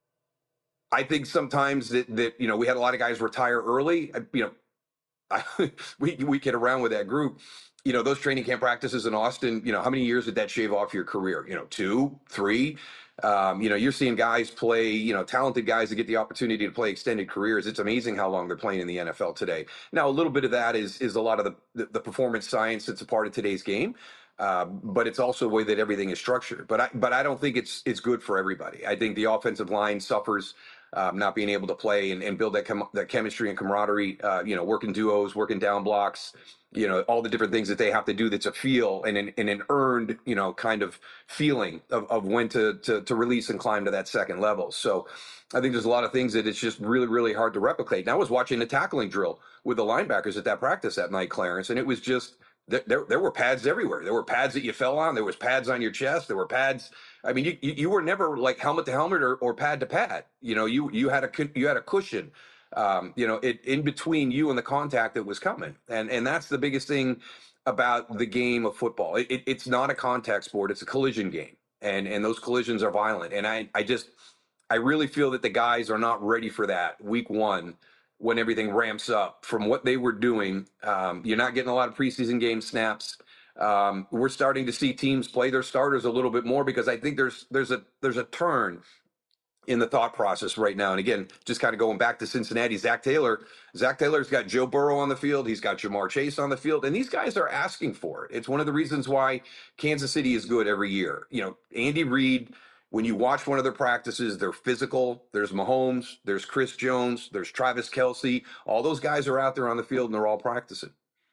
I think sometimes that, that, you know, we had a lot of guys retire early. I, you know, I, we, we get around with that group. You know, those training camp practices in Austin, you know, how many years did that shave off your career? You know, two, three? Um, you know, you're seeing guys play, you know, talented guys that get the opportunity to play extended careers. It's amazing how long they're playing in the N F L today. Now, a little bit of that is is a lot of the, the, the performance science that's a part of today's game. Uh, but it's also the way that everything is structured. But I, but I don't think it's it's good for everybody. I think the offensive line suffers um, not being able to play and, and build that chem- that chemistry and camaraderie. Uh, you know, working duos, working down blocks. You know, all the different things that they have to do. That's a feel and an, and an earned, you know, kind of feeling of, of when to, to to release and climb to that second level. So I think there's a lot of things that it's just really, really hard to replicate. And I was watching the tackling drill with the linebackers at that practice that night, Clarence, and it was just. There, there were pads everywhere. There were pads that you fell on. There was pads on your chest. There were pads. I mean, you you were never like helmet to helmet or, or pad to pad. You know, you you had a you had a cushion. Um, you know, it in between you and the contact that was coming, and and that's the biggest thing about the game of football. It, it, it's not a contact sport. It's a collision game, and and those collisions are violent. And I I just I really feel that the guys are not ready for that week one. When everything ramps up from what they were doing. Um, you're not getting a lot of preseason game snaps. Um, we're starting to see teams play their starters a little bit more because I think there's there's a there's a turn in the thought process right now. And again, just kind of going back to Cincinnati, Zach Taylor. Zach Taylor's got Joe Burrow on the field. He's got Jamar Chase on the field. And these guys are asking for it. It's one of the reasons why Kansas City is good every year. You know, Andy Reid, when you watch one of their practices, they're physical. There's Mahomes, there's Chris Jones, there's Travis Kelce. All those guys are out there on the field, and they're all practicing.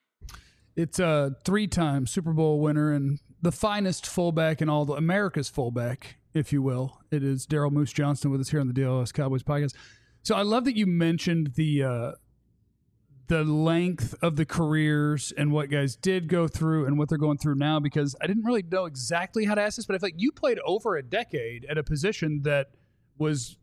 It's a three-time Super Bowl winner and the finest fullback in all the America's fullback, if you will. It is Daryl Moose Johnston with us here on the D L S Cowboys podcast. So I love that you mentioned the uh, the length of the careers and what guys did go through and what they're going through now, because I didn't really know exactly how to ask this, but I feel like you played over a decade at a position that was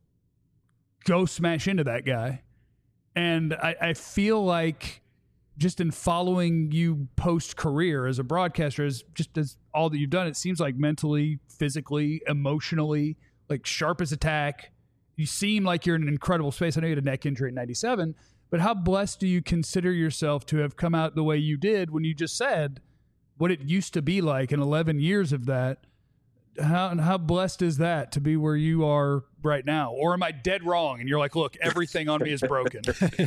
go smash into that guy. And I, I feel like just in following you post-career as a broadcaster, as just as all that you've done, it seems like mentally, physically, emotionally, like sharp as a tack. You seem like you're in an incredible space. I know you had a neck injury in ninety-seven, but how blessed do you consider yourself to have come out the way you did when you just said what it used to be like in eleven years of that? How how blessed is that to be where you are right now? Or am I dead wrong? And you're like, look, everything on me is broken.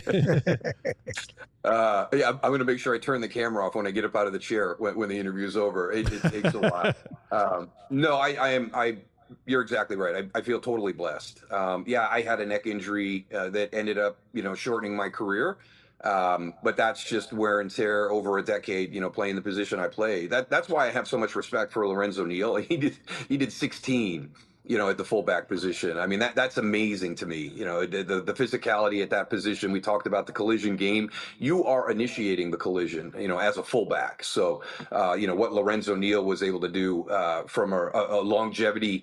uh, yeah, I'm going to make sure I turn the camera off when I get up out of the chair when, when the interview is over. It, it takes a while. Um, no, I, I am. I. You're exactly right. I, I feel totally blessed. Um, yeah, I had a neck injury uh, that ended up, you know, shortening my career. Um, but that's just wear and tear over a decade, you know, playing the position I play. That that's why I have so much respect for Lorenzo Neal. He did he did sixteen, you know, at the fullback position. I mean, that that's amazing to me. You know, the, the the physicality at that position. We talked about the collision game. You are initiating the collision, you know, as a fullback. So, uh, you know, what Lorenzo Neal was able to do uh, from a, a longevity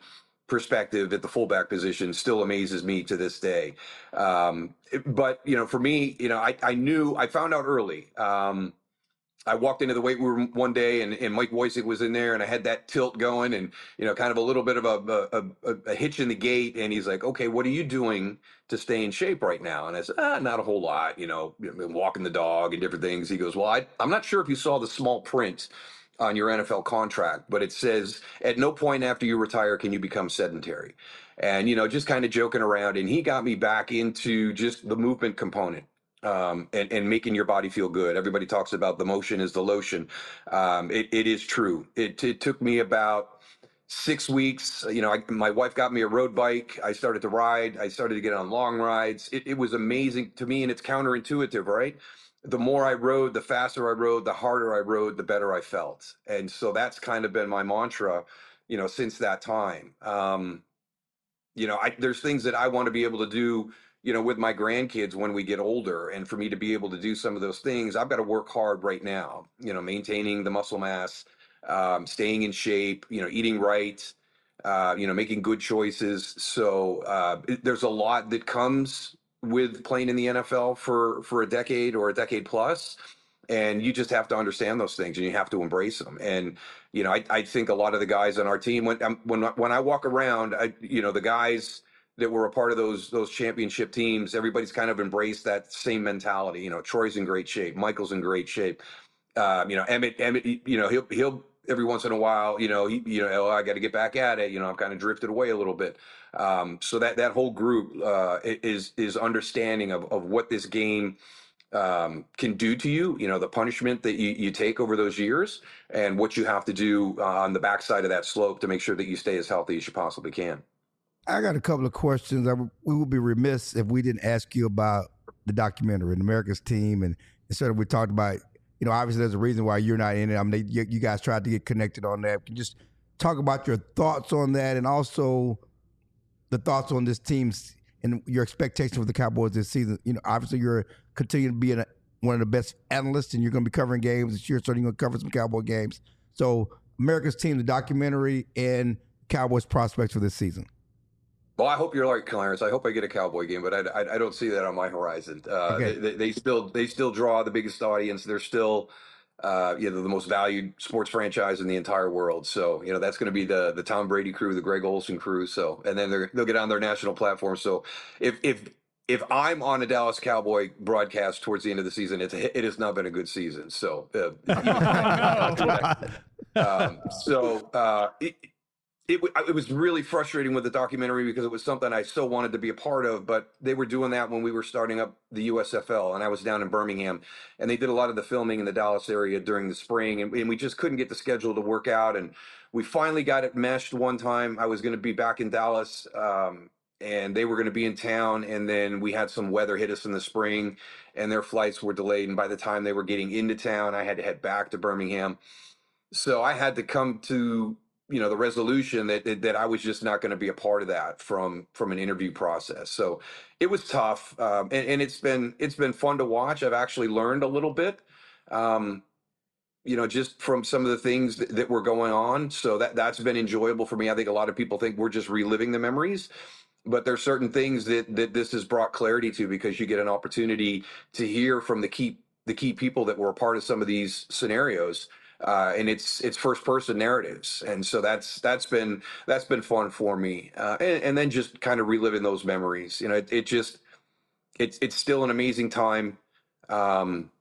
perspective at the fullback position still amazes me to this day. Um, but, you know, for me, you know, I, I knew, I found out early. Um, I walked into the weight room one day and, and Mike Wojcik was in there and I had that tilt going and, you know, kind of a little bit of a, a, a, a hitch in the gate. And he's like, okay, what are you doing to stay in shape right now? And I said, ah, not a whole lot, you know, walking the dog and different things. He goes, well, I, I'm not sure if you saw the small print on your N F L contract, but it says at no point after you retire can you become sedentary. And, you know, just kind of joking around. And he got me back into just the movement component. Um, and, and making your body feel good. Everybody talks about the motion is the lotion. Um, it, it is true. It, it took me about six weeks. You know, I, my wife got me a road bike. I started to ride. I started to get on long rides. It, it was amazing to me, and it's counterintuitive, right? The more I rode, the faster I rode, the harder I rode, the better I felt. And so that's kind of been my mantra, you know, since that time. Um, you know, I, there's things that I want to be able to do, you know, with my grandkids when we get older. And for me to be able to do some of those things, I've got to work hard right now, you know, maintaining the muscle mass, um, staying in shape, you know, eating right, uh, you know, making good choices. So uh, it, there's a lot that comes with playing in the N F L for, for a decade or a decade plus. And you just have to understand those things and you have to embrace them. And, you know, I, I think a lot of the guys on our team, when, when, when I walk around, I, you know, the guys that were a part of those those championship teams, everybody's kind of embraced that same mentality. You know, Troy's in great shape, Michael's in great shape. Uh, you know, Emmett, Emmett, you know, he'll he'll every once in a while, you know, he, you know, oh, I got to get back at it. You know, I've kind of drifted away a little bit. Um, so that that whole group uh, is is understanding of of what this game um, can do to you. You know, the punishment that you you take over those years, and what you have to do uh, on the backside of that slope to make sure that you stay as healthy as you possibly can. I got a couple of questions. I, we would be remiss if we didn't ask you about the documentary, and America's Team, and instead of we talked about, you know, obviously there's a reason why you're not in it. I mean, they, you, you guys tried to get connected on that. Can you just talk about your thoughts on that, and also the thoughts on this team's and your expectations for the Cowboys this season? You know, obviously you're continuing to be a, one of the best analysts, and you're going to be covering games this year, so you're going to cover some Cowboy games. So America's Team, the documentary, and Cowboys prospects for this season. Well, I hope you're right, Clarence. I hope I get a Cowboy game, but I, I, I don't see that on my horizon. Uh, Okay. they, they still they still draw the biggest audience. They're still uh, you know, the most valued sports franchise in the entire world. So you know that's going to be the the Tom Brady crew, the Greg Olsen crew. So and then they're, they'll get on their national platform. So if if if I'm on a Dallas Cowboy broadcast towards the end of the season, it's it has not been a good season. So uh, um, so uh, it, It, it was really frustrating with the documentary because it was something I so wanted to be a part of, but they were doing that when we were starting up the U S F L, and I was down in Birmingham, and they did a lot of the filming in the Dallas area during the spring, and, and we just couldn't get the schedule to work out, and we finally got it meshed one time. I was going to be back in Dallas, um, and they were going to be in town, and then we had some weather hit us in the spring, and their flights were delayed, and by the time they were getting into town, I had to head back to Birmingham. So I had to come to you know, the resolution that, that, that I was just not going to be a part of that from, from an interview process. So it was tough. Um, and, and it's been, it's been fun to watch. I've actually learned a little bit, um, you know, just from some of the things that, that were going on. So that, that's been enjoyable for me. I think a lot of people think we're just reliving the memories, but there's certain things that, that this has brought clarity to, because you get an opportunity to hear from the key, the key people that were a part of some of these scenarios. Uh, and it's it's first person narratives, and so that's that's been that's been fun for me, uh, and, and then just kind of reliving those memories. You know, it, it just it's it's still an amazing time. Um,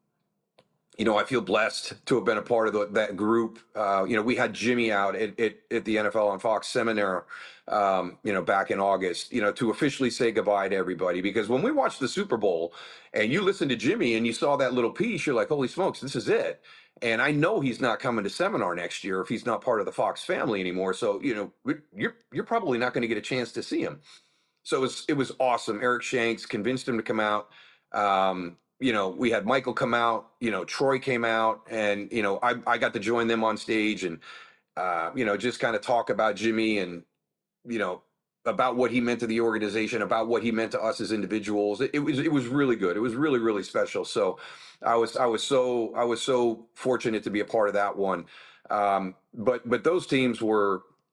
you know, I feel blessed to have been a part of the, that group. Uh, you know, we had Jimmy out at, at, at the N F L on Fox seminar, um, you know, back in August, you know, to officially say goodbye to everybody. Because when we watched the Super Bowl and you listened to Jimmy and you saw that little piece, you're like, holy smokes, this is it. And I know he's not coming to seminar next year if he's not part of the Fox family anymore. So, you know, you're you're probably not going to get a chance to see him. So it was, it was awesome. Eric Shanks convinced him to come out. Um, you know, we had Michael come out, you know, Troy came out, and, you know, I, I got to join them on stage and, uh, you know, just kind of talk about Jimmy and, you know, about what he meant to the organization, about what he meant to us as individuals. It, it was, it was really good. It was really, really special. So I was, I was so, I was so fortunate to be a part of that one. Um, but, but those teams were,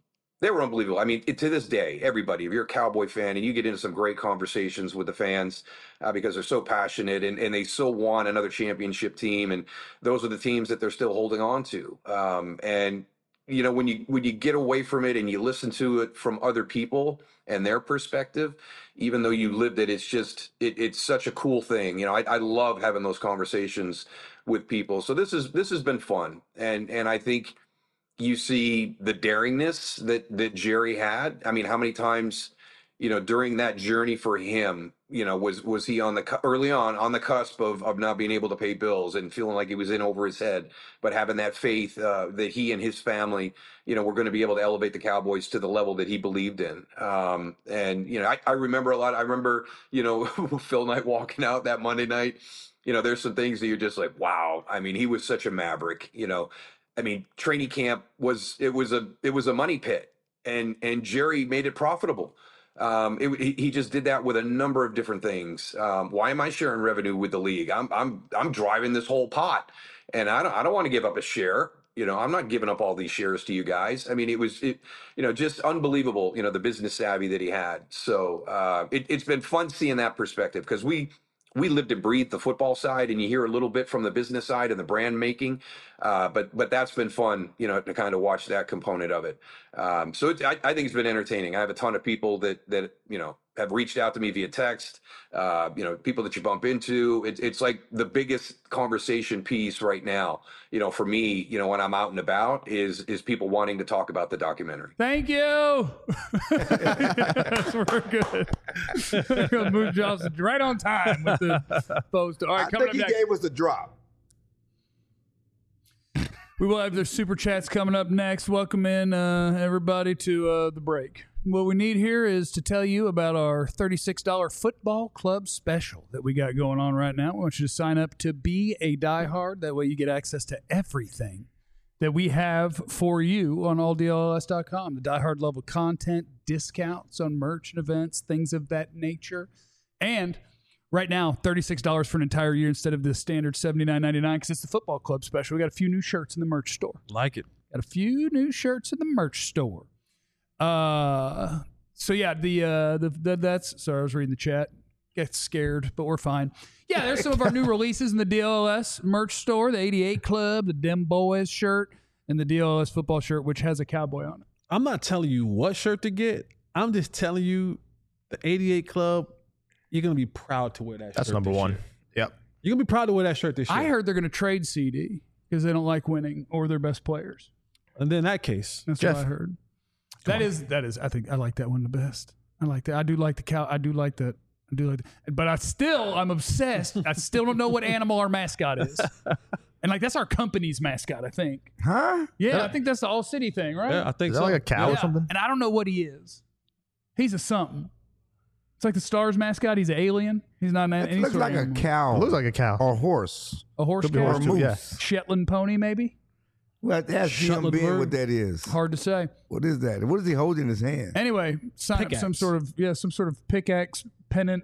they were unbelievable. I mean, it, to this day, everybody, if you're a Cowboy fan and you get into some great conversations with the fans uh, because they're so passionate and, and they so want another championship team, and those are the teams that they're still holding on to. Um, and you know, when you when you get away from it and you listen to it from other people and their perspective, even though you lived it, it's just it, it's such a cool thing. You know, I, I love having those conversations with people. So this is this has been fun, and and I think you see the daringness that that Jerry had. I mean, how many times, you know, during that journey for him, you know, was was he on the cu- early on on the cusp of of not being able to pay bills and feeling like he was in over his head, but having that faith uh, that he and his family, you know, were going to be able to elevate the Cowboys to the level that he believed in. Um, and you know, I, I remember a lot. I remember, you know, Phil Knight walking out that Monday night. You know, there's some things that you're just like, wow. I mean, he was such a maverick. You know, I mean, training camp was it was a it was a money pit, and and Jerry made it profitable. Um, it, he, he just did that with a number of different things. Um, why am I sharing revenue with the league? I'm I'm I'm driving this whole pot, and I don't I don't want to give up a share. You know, I'm not giving up all these shares to you guys. I mean, it was it, you know, just unbelievable. You know, the business savvy that he had. So uh, it, it's been fun seeing that perspective, because we. We lived and breathed the football side, and you hear a little bit from the business side and the brand making, uh, but but that's been fun, you know, to kind of watch that component of it. Um, so it, I, I think it's been entertaining. I have a ton of people that that you know have reached out to me via text. Uh, you know, people that you bump into. It, it's like the biggest conversation piece right now. You know, for me, you know, when I'm out and about, is is people wanting to talk about the documentary. Thank you. Yes, we're good. Moon Johnson right on time with the post. All right, I coming think up he next. gave us the drop. We will have their super chats coming up next. Welcome in uh, everybody to uh, the break. What we need here is to tell you about our thirty-six dollars football club special that we got going on right now. We want you to sign up to be a diehard. That way you get access to everything that we have for you on all D L L S dot com. The diehard level content, discounts on merch and events, things of that nature. And right now, thirty-six dollars for an entire year instead of the standard seventy-nine ninety-nine, because it's the football club special. We got a few new shirts in the merch store. Like it. Got a few new shirts in the merch store. Uh, so yeah, the uh, the, the that's sorry, I was reading the chat. Get scared, but we're fine. Yeah, there's some of our new releases in the D L L S merch store. The eighty-eight Club, the Dem Boys shirt, and the D L L S football shirt, which has a cowboy on it. I'm not telling you what shirt to get. I'm just telling you the eighty-eight Club. You're gonna be proud to wear that. That's shirt number this one. year. Yep. You're gonna be proud to wear that shirt this year. I heard they're going to trade C D because they don't like winning or their best players. And then in that case, That's Jeff. what I heard. That is that is. I think I like that one the best. I like that. I do like the cow. I do like that. I do like that. But I still, I'm obsessed. I still don't know what animal our mascot is. And like that's our company's mascot, I think. Huh? Yeah, I think that's the All City thing, right? yeah, I think Is that so. like a cow Yeah. or something? And I don't know what he is. He's a something. It's like the Stars mascot. He's an alien. He's not an It any looks sort like of a animal. cow It looks like a cow. or horse A horse Could be cow? or a horse too, moose. yeah. Shetland pony, maybe. Well, ask Jim Shetland Ben bird? what that is. Hard to say. What is that? What is he holding in his hand? Anyway, sign up some Pickaxe. sort of yeah, some sort of pickaxe pennant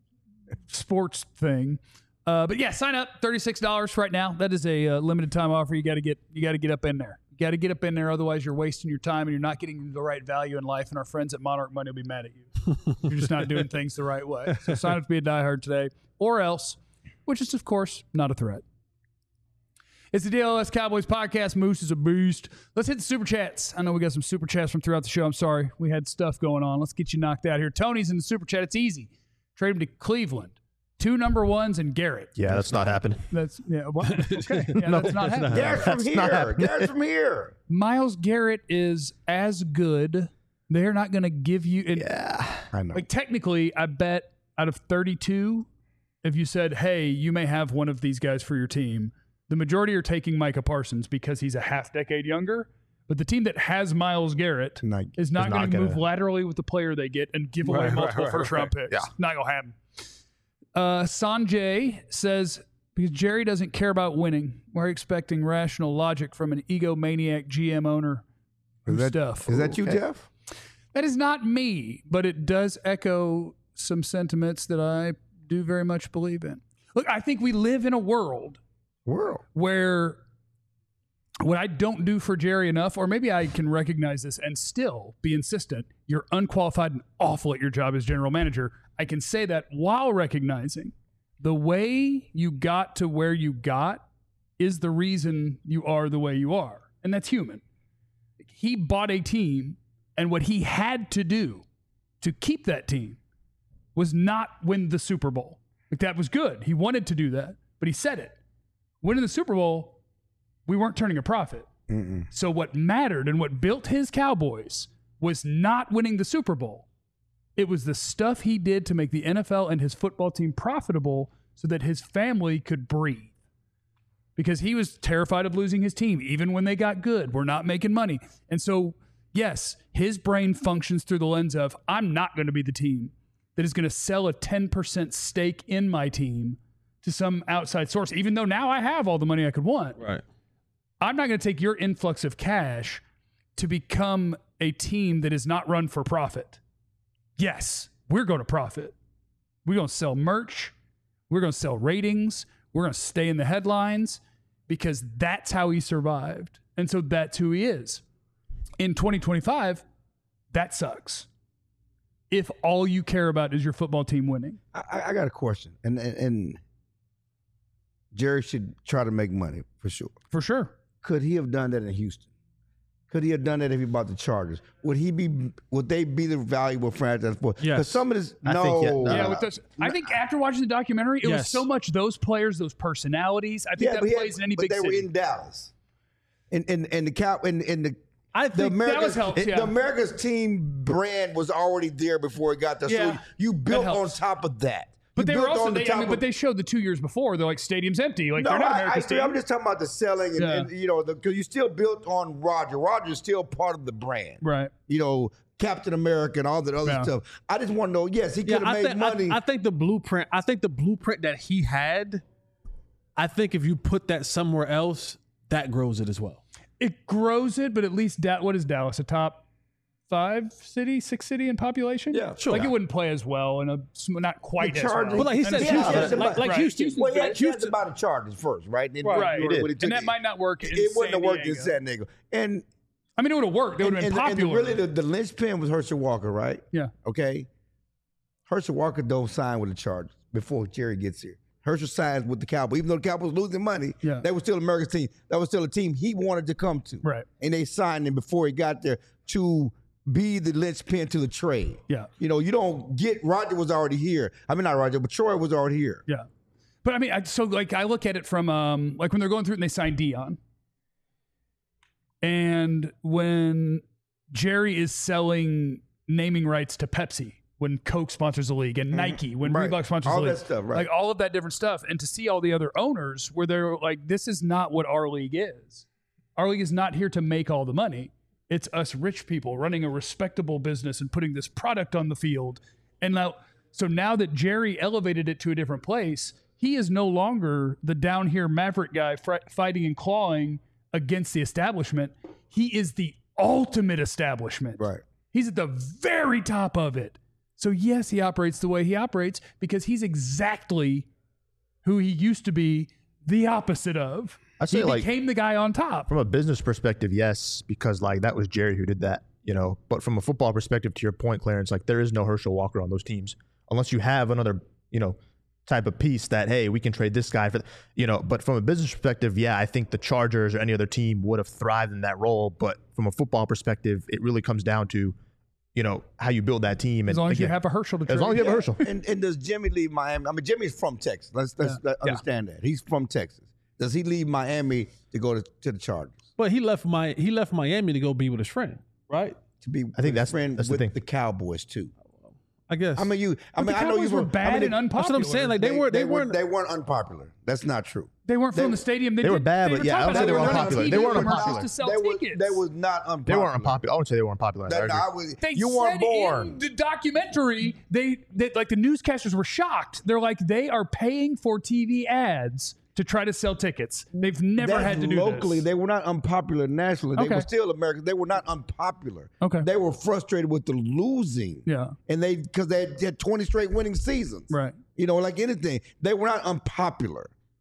sports thing. Uh, but yeah, sign up thirty-six dollars right now. That is a uh, limited time offer. You got to get you got to get up in there. You got to get up in there, otherwise you're wasting your time and you're not getting the right value in life. And our friends at Monarch Money will be mad at you. You're just not doing things the right way. So sign up to be a diehard today, or else, which is of course not a threat. It's the D L L S Cowboys podcast. Moose is a beast. Let's hit the super chats. I know we got some super chats from throughout the show. I'm sorry. We had stuff going on. Let's get you knocked out here. Tony's in the super chat. It's easy. Trade him to Cleveland. Two number ones and Garrett. Yeah, that's not happening. That's, yeah, what? Okay. Yeah, No, that's not it's happening. not. Garrett's from That's not here. happening. Garrett's from here. Myles Garrett is as good. They're not going to give you. And, Yeah. I know. Like, technically, I bet out of thirty-two, if you said, hey, you may have one of these guys for your team, the majority are taking Micah Parsons because he's a half decade younger. But the team that has Myles Garrett Not- is not is going not to gonna- move laterally with the player they get and give away Right, right, multiple right, first round picks. Yeah. Not going to happen. Uh, Sanjay says, because Jerry doesn't care about winning, we're expecting rational logic from an egomaniac G M owner. Is that, stuff. is that you, Okay. Jeff? That is not me, but it does echo some sentiments that I do very much believe in. Look, I think we live in a world World. where what I don't do for Jerry enough, or maybe I can recognize this and still be insistent, you're unqualified and awful at your job as general manager. I can say that while recognizing the way you got to where you got is the reason you are the way you are. And that's human. He bought a team, and what he had to do to keep that team was not win the Super Bowl. Like, that was good. He wanted to do that, but he said it. Winning the Super Bowl, we weren't turning a profit. Mm-mm. So what mattered and what built his Cowboys was not winning the Super Bowl. It was the stuff he did to make the N F L and his football team profitable so that his family could breathe. Because he was terrified of losing his team, even when they got good. We're not making money. And so, yes, his brain functions through the lens of, I'm not going to be the team that is going to sell a ten percent stake in my team to some outside source, even though now I have all the money I could want. Right. I'm not going to take your influx of cash to become a team that is not run for profit. Yes, we're going to profit. We're going to sell merch. We're going to sell ratings. We're going to stay in the headlines because that's how he survived. And so that's who he is. In twenty twenty-five, that sucks. If all you care about is your football team winning. I, I got a question. And, and, and Jerry should try to make money for sure. For sure. Could he have done that in Houston? Could he have done that if he bought the Chargers? Would he be? Would they be the valuable franchise for? Yes. Because some of this, I no, think, yeah, no. Yeah, with those, I think after watching the documentary, it Yes. was so much those players, those personalities. I think yeah, that but he plays had- in any but big they city. were in Dallas, and and and the cow and, and the. I The think America's, Dallas helps, yeah. the America's team brand was already there before it got there. Yeah, so you built that on helps. top of that. But You they were built also, on the they, I top mean, of- but they showed the two years before. They're like, stadium's empty. Like, No, they're not I, I America's agree. team. I'm just talking about the selling, and, Yeah. and you know, because you still built on Roger. Roger's still part of the brand, Right. You know, Captain America and all that other Yeah. stuff. I just want to know. Yes, he could Yeah, have I made think, money. I, I think the blueprint. I think the blueprint that he had. I think if you put that somewhere else, that grows it as well. It grows it, but at least, da- what is Dallas? A top five city, six city in population? Yeah, sure. Like, it wouldn't play as well, and a, not quite The as Chargers- well. But like he And said, it's Yeah, Houston, yeah, like, like right. Houston, well, he had Houston. to about the Chargers first, right? Then Right. when- He did. when took And that it- might not work in It wouldn't San have worked in Diego. San Diego. And I mean, it would have worked. They would have and, been and, and popular. really, the, the linchpin was Herschel Walker, right? yeah. Okay. Herschel Walker don't sign with the Chargers before Jerry gets here. Herschel signs with the Cowboys. Even though the Cowboys were losing money, Yeah. they were still America's team. That was still a team he wanted to come to. Right. And they signed him before he got there to be the linchpin to the trade. Yeah. You know, you don't get, Roger was already here. I mean, not Roger, but Troy was already here. Yeah. But I mean, I, so like I look at it from um like when they're going through it and they sign Dion. And when Jerry is selling naming rights to Pepsi, when Coke sponsors the league, and Nike, when Right. Reebok sponsors All the league. that stuff, right. Like all of that different stuff. And to see all the other owners where they're like, this is not what our league is. Our league is not here to make all the money. It's us rich people running a respectable business and putting this product on the field. And now, so now that Jerry elevated it to a different place, he is no longer the down here maverick guy fr- fighting and clawing against the establishment. He is the ultimate establishment. Right. He's at the very top of it. So yes, he operates the way he operates because he's exactly who he used to be, the opposite of. I'd say, he like, became the guy on top. From a business perspective, yes, because like that was Jerry who did that, you know. But from a football perspective, to your point, Clarence, like there is no Herschel Walker on those teams unless you have another, you know, type of piece that, hey, we can trade this guy for, you know. But from a business perspective, yeah, I think the Chargers or any other team would have thrived in that role. But from a football perspective, it really comes down to, you know, how you build that team. As and long as you again, have a Herschel to trade. as long as you have a Herschel. And, and does Jimmy leave Miami? I mean, Jimmy's from Texas. Let's, let's let understand that. He's from Texas. Does he leave Miami to go to, to the Chargers? But he left my he left Miami to go be with his friend, right? To be I think with that's- friend that's the with thing. the Cowboys too. I guess. I mean, you. I But mean, the I know you Cowboys were bad I mean, and unpopular. that's what I'm saying. Like they, were they, were, weren't they weren't unpopular. That's not true. They weren't They- filling the stadium. They, they were did- bad, they but yeah, I talking would say about they were it. unpopular. T V They weren't commercials unpopular. to sell They was, tickets. they was not unpopular. They weren't unpopular. I wouldn't say they were unpopular. That, I no, agree. I was, They you weren't said born. in the documentary, they, they like the newscasters were shocked. They're like, they are paying for T V ads to try to sell tickets. They've never That's had to do locally. this. They were not unpopular nationally. They Okay. were still American. They were not unpopular. Okay. They were frustrated with the losing. Yeah. And they because they had, had twenty straight winning seasons. Right. You know, like anything, they were not unpopular.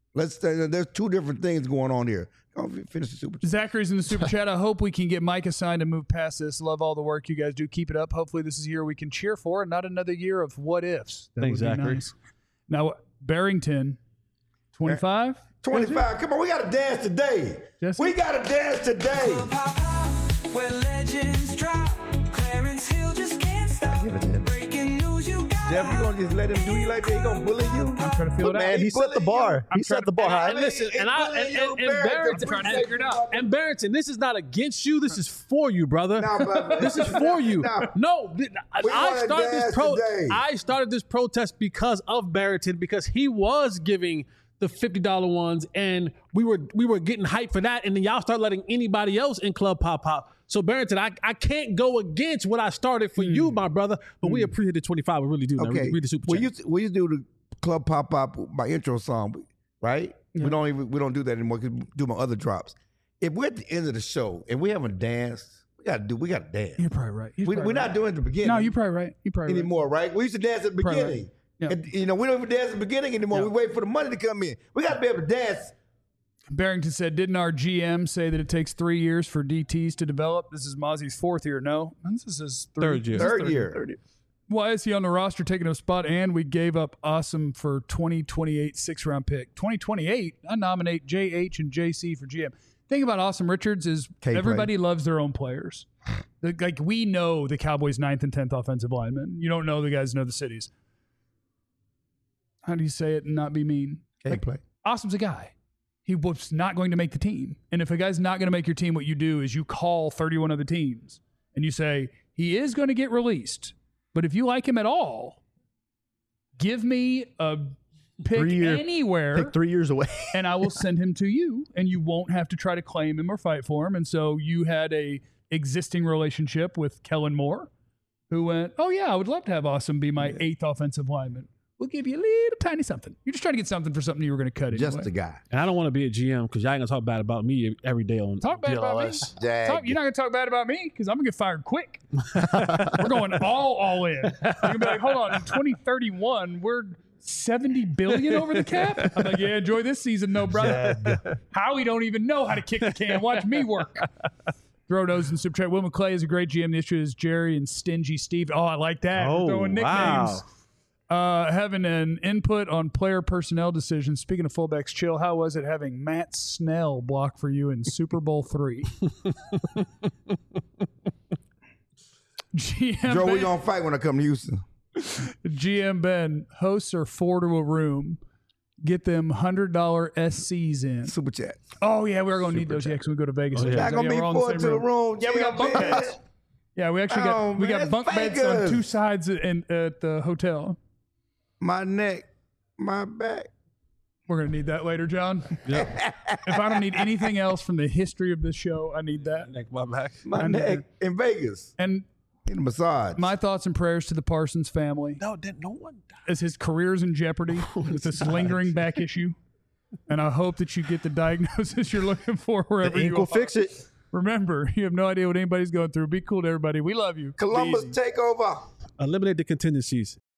Let's. Uh, there's two different things going on here. Go finish the super chat. Zachary's in the super chat. I hope we can get Micah signed and move past this. Love all the work you guys do. Keep it up. Hopefully this is a year we can cheer for and not another year of what ifs. That Thanks, would be Zachary. nice. Now, Barrington, twenty-five? twenty-five. Come on, we got to dance today. Jesse? We got to dance today. Where legends drop, Clarence Hill just can't stop. Give it to him. Breaking news, you got. Jeff, you gonna just let him do you like that? He gonna bully you? I'm trying to feel it out. Man, he set the bar. He set the bar high. And listen, and I and, and, and Barrington, I'm trying to figure it out. and Barrington, this is not against you. This is for you, brother. Nah, brother. This is for you. Nah. No, th- I wanna started this dance pro. today. I started this protest because of Barrington, because he was giving the fifty dollar ones, and we were we were getting hyped for that, and then y'all start letting anybody else in Club Pop Pop. So Barrington, I, I can't go against what I started for mm. you, my brother. But mm. we appreciate the twenty-five. We really do. Okay. Read, read the super we chat. used, we used to do the Club Pop Pop, my intro song, right? Yeah. We don't even we don't do that anymore. We do my other drops. If we're at the end of the show and we haven't danced, we gotta do. We gotta dance. You're probably right. You're we, probably we're right. not doing it at the beginning. No, you're probably right. You're probably anymore, right. right? We used to dance at the Probably beginning. right. Yeah. And, you know, we don't even dance at the beginning anymore. Yeah. We wait for the money to come in. We got to be able to dance. Barrington said, didn't our G M say that it takes three years for D Ts to develop? This is Mozzie's fourth year. No, this is his three, Third year. this is Third third year. Third year. Why is he on the roster taking a spot? And we gave up Awesome for twenty twenty-eight six round pick. twenty twenty-eight, I nominate J H and J C for G M. Thing about Awesome Richards is K-play. everybody loves their own players. Like, we know the Cowboys' ninth and tenth offensive linemen. You don't know the guys know the cities. How do you say it and not be mean? Can't play. Awesome's a guy. He was not going to make the team. And if a guy's not going to make your team, what you do is you call thirty-one other teams and you say, he is going to get released. But if you like him at all, give me a pick Three-year- anywhere Pick three years away. and I will send him to you, and you won't have to try to claim him or fight for him. And so you had a existing relationship with Kellen Moore, who went, oh, yeah, I would love to have Awesome be my eighth offensive lineman. We'll give you a little tiny something. You're just trying to get something for something you were going to cut anyway. Just a guy. And I don't want to be a G M because y'all ain't gonna talk bad about me every day on Talk bad D L about me. S. Talk, you're not going to talk bad about me because I'm going to get fired quick. We're going all, all in. I'm going to be like, hold on, in twenty thirty-one, we're seventy billion dollars over the cap? I'm like, yeah, enjoy this season, though, brother. Howie don't even know how to kick the can. Watch me work. Throw those in super chat. Will McClay is a great G M. The issue is Jerry and Stingy Steve. Oh, I like that. Oh, We're throwing nicknames. wow. Uh, having an input on player personnel decisions. Speaking of fullbacks, chill. How was it having Matt Snell block for you in Super Bowl three? G M Joe, Ben, we gonna fight when I come to Houston. G M Ben, hosts are four to a room. Get them one hundred dollars S Cs in. Super chat. Oh, yeah, we're going to need those. Yeah, because we go to Vegas. Oh, yeah. Not gonna Yeah, be we're all in the four same to the room. Yeah, we got bunk man. beds. Yeah, we actually got Oh, we got man, bunk beds Vegas. on two sides in, at the hotel. My neck, my back. We're gonna need that later, John. Yep. If I don't need anything else from the history of this show, I need that. Neck my back. My I need neck in Vegas. And In a massage. my thoughts and prayers to the Parsons family No, didn't no one died. as his career's in jeopardy with this lingering back issue. And I hope that you get the diagnosis you're looking for wherever The you ink are. will fix it. Remember, you have no idea what anybody's going through. Be cool to everybody. We love you. Be Columbus easy. takeover. Eliminate the contingencies.